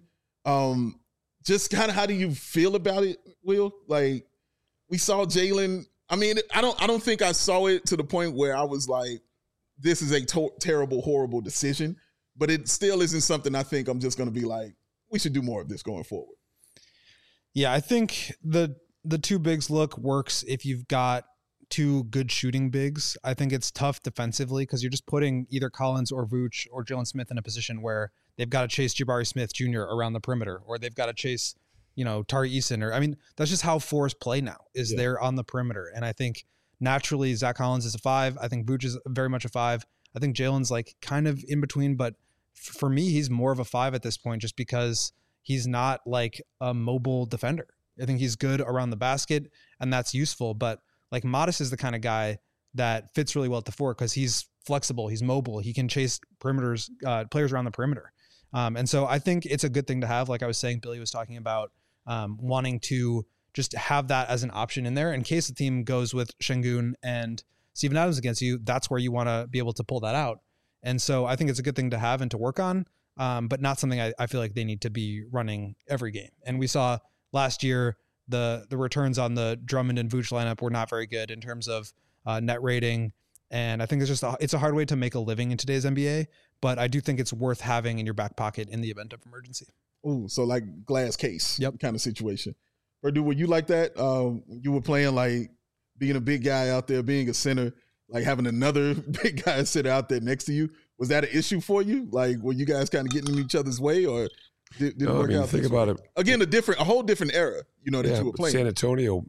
Just kind of how do you feel about it, Will? Like, we saw Jalen. I mean, I don't think I saw it to the point where I was like, this is a terrible, horrible decision. But it still isn't something I think I'm just going to be like, we should do more of this going forward.
Yeah, I think the two bigs look works if you've got two good shooting bigs. I think it's tough defensively because you're just putting either Collins or Vooch or Jalen Smith in a position where they've got to chase Jabari Smith Jr. around the perimeter, or they've got to chase, Tari Eason. That's just how fours play now, is they're on the perimeter. And I think naturally Zach Collins is a 5. I think Vooch is very much a 5. I think Jalen's like kind of in between, but for me, he's more of a 5 at this point just because he's not like a mobile defender. I think he's good around the basket, and that's useful. But like Modest is the kind of guy that fits really well at the 4 because he's flexible, he's mobile, he can chase players around the perimeter. And so I think it's a good thing to have. Like I was saying, Billy was talking about wanting to just have that as an option in there in case the team goes with Şengün and Steven Adams against you. That's where you want to be able to pull that out. And so I think it's a good thing to have and to work on, but not something I feel like they need to be running every game. And we saw last year the returns on the Drummond and Vooch lineup were not very good in terms of net rating. And I think it's a hard way to make a living in today's NBA, but I do think it's worth having in your back pocket in the event of emergency.
Ooh, so like glass case kind of situation. Purdue, were you like that? You were playing like being a big guy out there, being a center, like having another big guy sit out there next to you. Was that an issue for you? Like, were you guys kind of getting in each other's way, or did it work out?
Think about it.
Again, a whole different era, that you were playing.
San Antonio,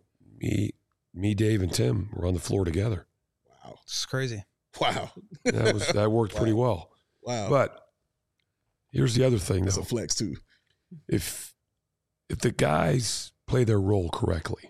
me, Dave, and Tim were on the floor together.
Wow.
It's crazy.
Wow.
That worked pretty well.
Wow.
But here's the other thing,
That's
though.
a flex, too.
If the guys play their role correctly,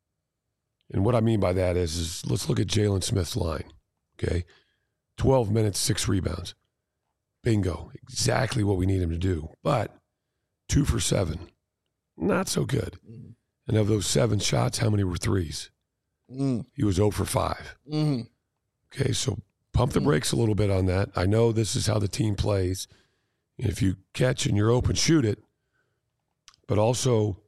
and what I mean by that is let's look at Jalen Smith's line, okay? 12 minutes, 6 rebounds. Bingo. Exactly what we need him to do. But 2 for 7. Not so good. Mm-hmm. And of those 7 shots, how many were threes? He was 0 for 5. Mm-hmm. Okay, so pump the brakes a little bit on that. I know this is how the team plays. If you catch and you're open, shoot it. But also,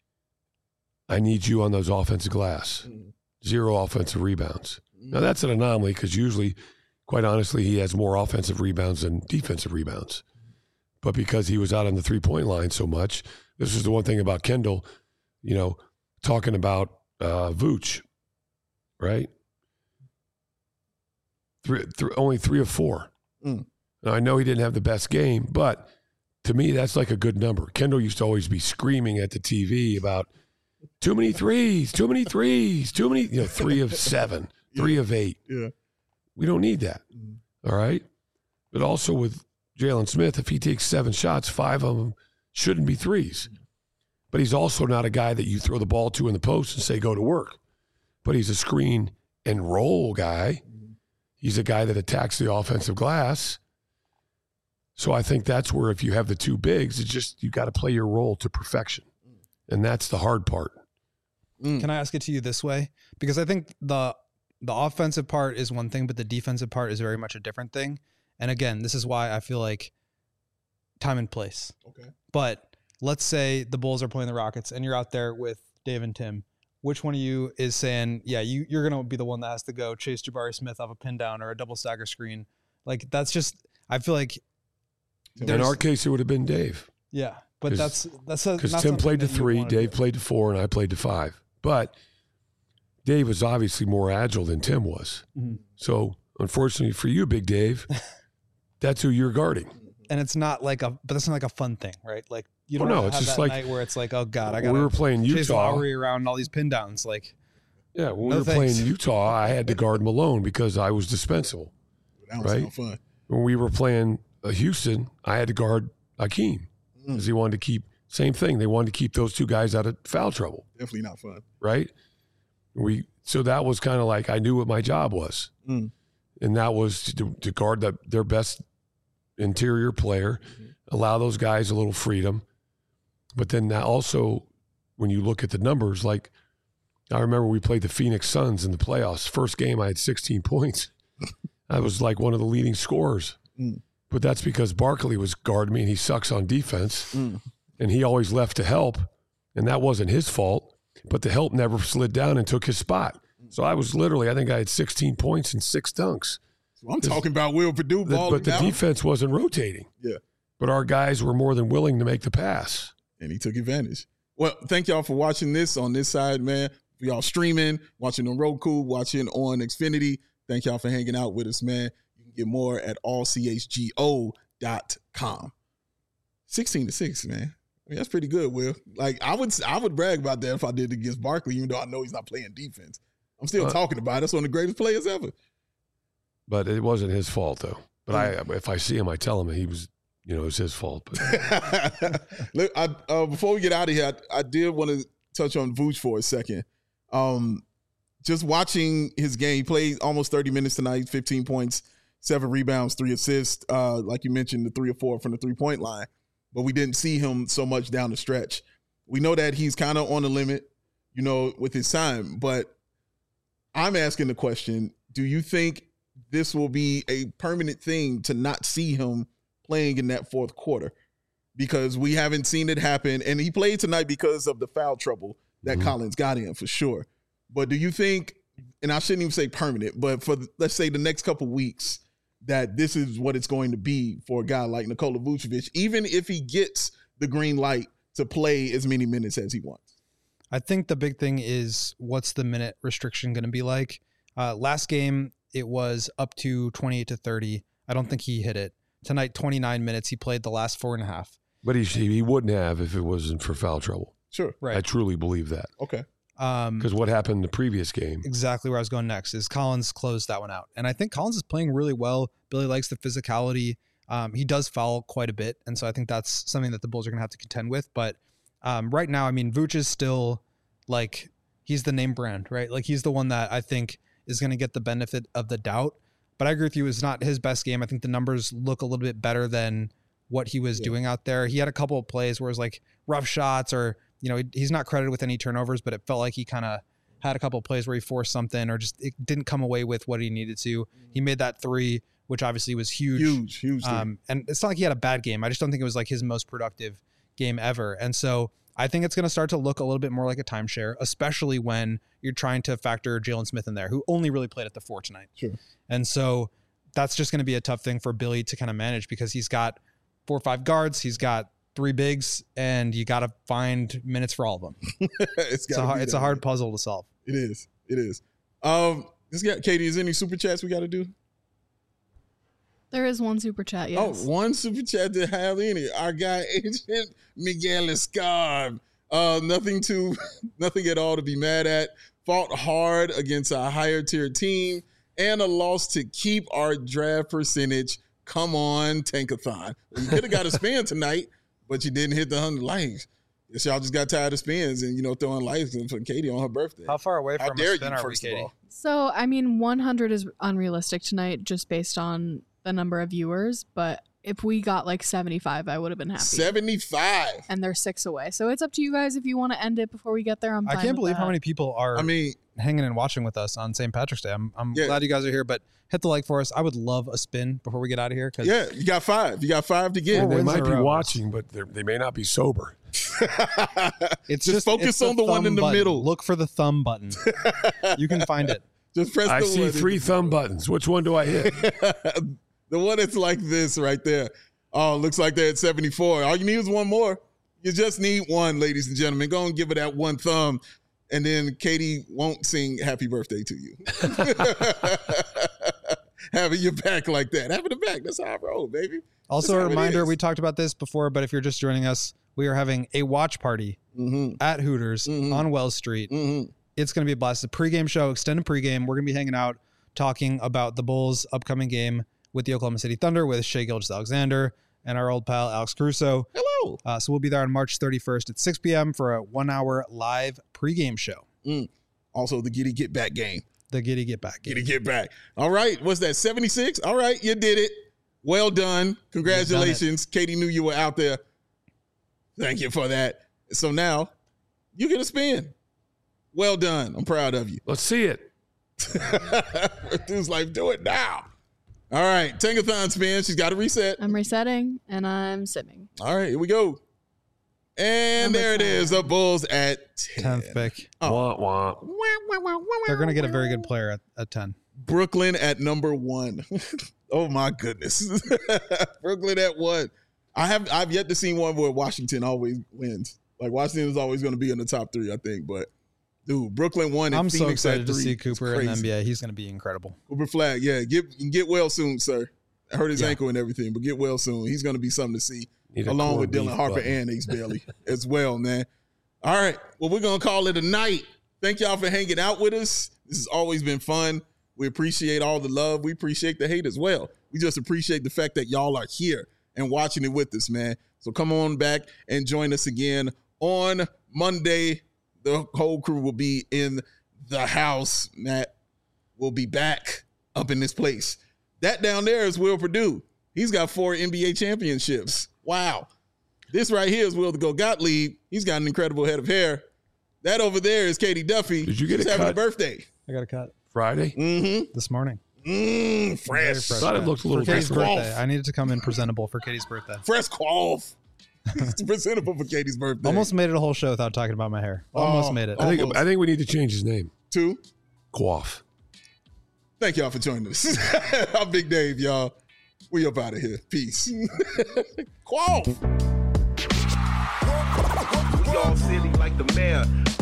I need you on those offensive glass. 0 offensive rebounds. Now, that's an anomaly because usually, quite honestly, he has more offensive rebounds than defensive rebounds. But because he was out on the three-point line so much, this is the one thing about Kendall, talking about Vooch, right? Only 3 of 4. Now, I know he didn't have the best game, but to me, that's like a good number. Kendall used to always be screaming at the TV about too many threes, 3 of 7, 3 of 8.
Yeah.
We don't need that. All right. But also with Jalen Smith, if he takes 7 shots, 5 of them shouldn't be threes. But he's also not a guy that you throw the ball to in the post and say, go to work. But he's a screen and roll guy. He's a guy that attacks the offensive glass. So I think that's where if you have the 2 bigs, it's just you got to play your role to perfection. And that's the hard part.
Can I ask it to you this way? Because I think the offensive part is one thing, but the defensive part is very much a different thing. And again, this is why I feel like time and place.
Okay.
But let's say the Bulls are playing the Rockets and you're out there with Dave and Tim. Which one of you is saying, yeah, you're going to be the one that has to go chase Jabari Smith off a pin down or a double stagger screen? Like, that's just, I feel like.
In our case, it would have been Dave.
Yeah. But that's
because Tim played to 3, Dave played to 4, and I played to 5. But Dave was obviously more agile than Tim was. Mm-hmm. So unfortunately for you, Big Dave, that's who you're guarding.
And it's not like but that's not like a fun thing, right? Like You don't
no,
have
it's just
that
like
night where it's like, oh God, I
when
got
we were playing
Chase
Utah.
Lowry around all these pin downs. Like,
Yeah, when
No
we were
thanks.
playing Utah, I had to guard Malone because I was dispensable.
That was
Right?
sound fun.
When we were playing Houston, I had to guard Hakeem because he wanted to keep, same thing. They wanted to keep those two guys out of foul trouble,
Definitely not fun.
right? So that was kind of like I knew what my job was.
Mm.
And that was to guard their best interior player, allow those guys a little freedom. But then that also, when you look at the numbers, like I remember we played the Phoenix Suns in the playoffs. First game, I had 16 points. I was like one of the leading scorers.
Mm.
But that's because Barkley was guarding me and he sucks on defense.
Mm.
And he always left to help. And that wasn't his fault. But the help never slid down and took his spot. So I was literally, I think I had 16 points and 6 dunks.
So I'm talking about Will Purdue balling
But the
out.
defense wasn't rotating.
Yeah.
But our guys were more than willing to make the pass.
And he took advantage. Well, thank y'all for watching this on this side, man. For y'all streaming, watching on Roku, watching on Xfinity. Thank y'all for hanging out with us, man. You can get more at allchgo.com. 16-6, man. I mean, that's pretty good, Will. Like I would brag about that if I did it against Barkley, even though I know he's not playing defense. I'm still talking about it. That's one of the greatest players ever.
But it wasn't his fault, though. But if I see him, I tell him he was, it's his fault. But
Look, before we get out of here, I did want to touch on Vooch for a second. Just watching his game, he played almost 30 minutes tonight, 15 points, 7 rebounds, 3 assists. Like you mentioned, the 3 or 4 from the 3-point line. But we didn't see him so much down the stretch. We know that he's kind of on the limit, with his time. But I'm asking the question, do you think this will be a permanent thing to not see him playing in that fourth quarter? Because we haven't seen it happen. And he played tonight because of the foul trouble that Collins got in, for sure. But do you think, and I shouldn't even say permanent, but for, let's say, the next couple weeks, that this is what it's going to be for a guy like Nikola Vucevic, even if he gets the green light to play as many minutes as he wants?
I think the big thing is, what's the minute restriction going to be like? Last game, it was up to 28 to 30. I don't think he hit it. Tonight, 29 minutes. He played the last 4.5.
But he wouldn't have if it wasn't for foul trouble.
Sure.
Right.
I truly believe that.
Okay.
Because what happened in the previous game?
Exactly where I was going next is Collins closed that one out. And I think Collins is playing really well. Billy likes the physicality. He does foul quite a bit. And so I think that's something that the Bulls are going to have to contend with. But right now, I mean, Vooch is still like, he's the name brand, right? Like he's the one that I think is going to get the benefit of the doubt. But I agree with you, it's not his best game. I think the numbers look a little bit better than what he was doing out there. He had a couple of plays where it was like rough shots, or, he's not credited with any turnovers, but it felt like he kind of had a couple of plays where he forced something or just it didn't come away with what he needed to. He made that 3, which obviously was huge.
Huge.
And it's not like he had a bad game. I just don't think it was like his most productive game ever. And so I think it's going to start to look a little bit more like a timeshare, especially when you're trying to factor Jalen Smith in there, who only really played at the 4 tonight.
Sure.
And so that's just going to be a tough thing for Billy to kind of manage, because he's got 4 or 5 guards, he's got 3 bigs, and you got to find minutes for all of them. It's a hard puzzle to solve.
It is. Katie, is there any super chats we got to do?
There is one super chat, yes.
Oh, one super chat to have any. Our guy, Agent Miguel Escarb. Nothing at all to be mad at. Fought hard against a higher tier team and a loss to keep our draft percentage. Come on, Tankathon. You could have got a spin tonight, but you didn't hit the 100 likes. Guess y'all just got tired of spins and, throwing likes for Katie on her birthday.
How far away
How
from
dare
a spin
you,
are we,
first of
Katie?
all?
So, I mean, 100 is unrealistic tonight just based on the number of viewers, but if we got like 75, I would have been happy.
75.
And they're 6 away. So it's up to you guys if you want to end it before we get there. I'm fine
I can't
with
believe how
that.
many people are hanging and watching with us on St. Patrick's Day. I'm glad you guys are here, but hit the like for us. I would love a spin before we get out of here.
Yeah, you got 5. You got 5 to get.
Four
They
wins
might
in a
be
row.
watching, but they may not be sober.
It's
just focus
it's
on the one
thumb
in the
button.
middle.
Look for the thumb button. You can find it.
Just press
I
the
see
one.
3 thumb buttons. Which one do I hit?
The one that's like this right there. Oh, looks like they're at 74. All you need is one more. You just need one, ladies and gentlemen. Go and give it that one thumb, and then Katie won't sing happy birthday to you. Having your back like that. Having the back. That's how I roll, baby.
Also,
That's
a
how it
reminder,
is.
we talked about this before, but if you're just joining us, We are having a watch party at Hooters on Wells Street. It's going to be a blast. It's a pregame show, extended pregame. We're going to be hanging out, talking about the Bulls' upcoming game with the Oklahoma City Thunder with Shai Gilgeous-Alexander and our old pal Alex Caruso.
Hello.
So we'll be there on March 31st at 6 p.m. for a 1-hour live pregame show.
Also, the Giddy Get Back game.
The Giddy Get Back game.
Giddy Get Back. All right. What's that, 76? All right. You did it. Well done. Congratulations. Katie knew you were out there. Thank you for that. So now you get a spin. Well done. I'm proud of you.
Let's see it.
Dude's like, do it now. All right. Tankathon spin. She's got to reset.
I'm resetting and I'm simming.
All right. Here we go. And
Number
there it
10.
is. The Bulls at 10.
10th pick.
Wah, wah.
They're going to get a very good player at 10.
Brooklyn at number 1. Oh my goodness. Brooklyn at 1. I've yet to see one where Washington always wins. Like Washington is always going to be in the top 3, I think. But dude, Brooklyn 1 and
I'm
Phoenix
so excited
at
to
3.
see
It's
Cooper in the
crazy.
NBA. He's going to be incredible.
Cooper Flag, yeah. Get well soon, sir. I hurt his ankle and everything, but get well soon. He's going to be something to see.
Need a
Along with
corned
Dylan
beef
Harper
button.
and Ace Bailey as well, man. All right. Well, we're going to call it a night. Thank y'all for hanging out with us. This has always been fun. We appreciate all the love. We appreciate the hate as well. We just appreciate the fact that y'all are here and watching it with us, man. So come on back and join us again on Monday. The whole crew will be in the house. Matt will be back up in this place. That down there is Will Perdue. He's got 4 NBA championships. Wow. This right here is Will the Go Gottlieb. He's got an incredible head of hair. That over there is Katie Duffy.
Did you get
She's
a
having a
cut?
birthday.
I got a cut
Friday?
this morning.
Fresh.
Very
Thought it looked a
For
little
Katie's
different.
birthday. I needed to come in presentable for Katie's birthday.
Fresh quaff. It's presentable for Katie's birthday.
Almost made it a whole show without talking about my hair. Almost made it.
I
Almost.
think we need to change his name.
2.
Quaff.
Thank y'all for joining us. I'm Big Dave, y'all. We up out of here. Peace. Quaff.
We all silly like the mayor.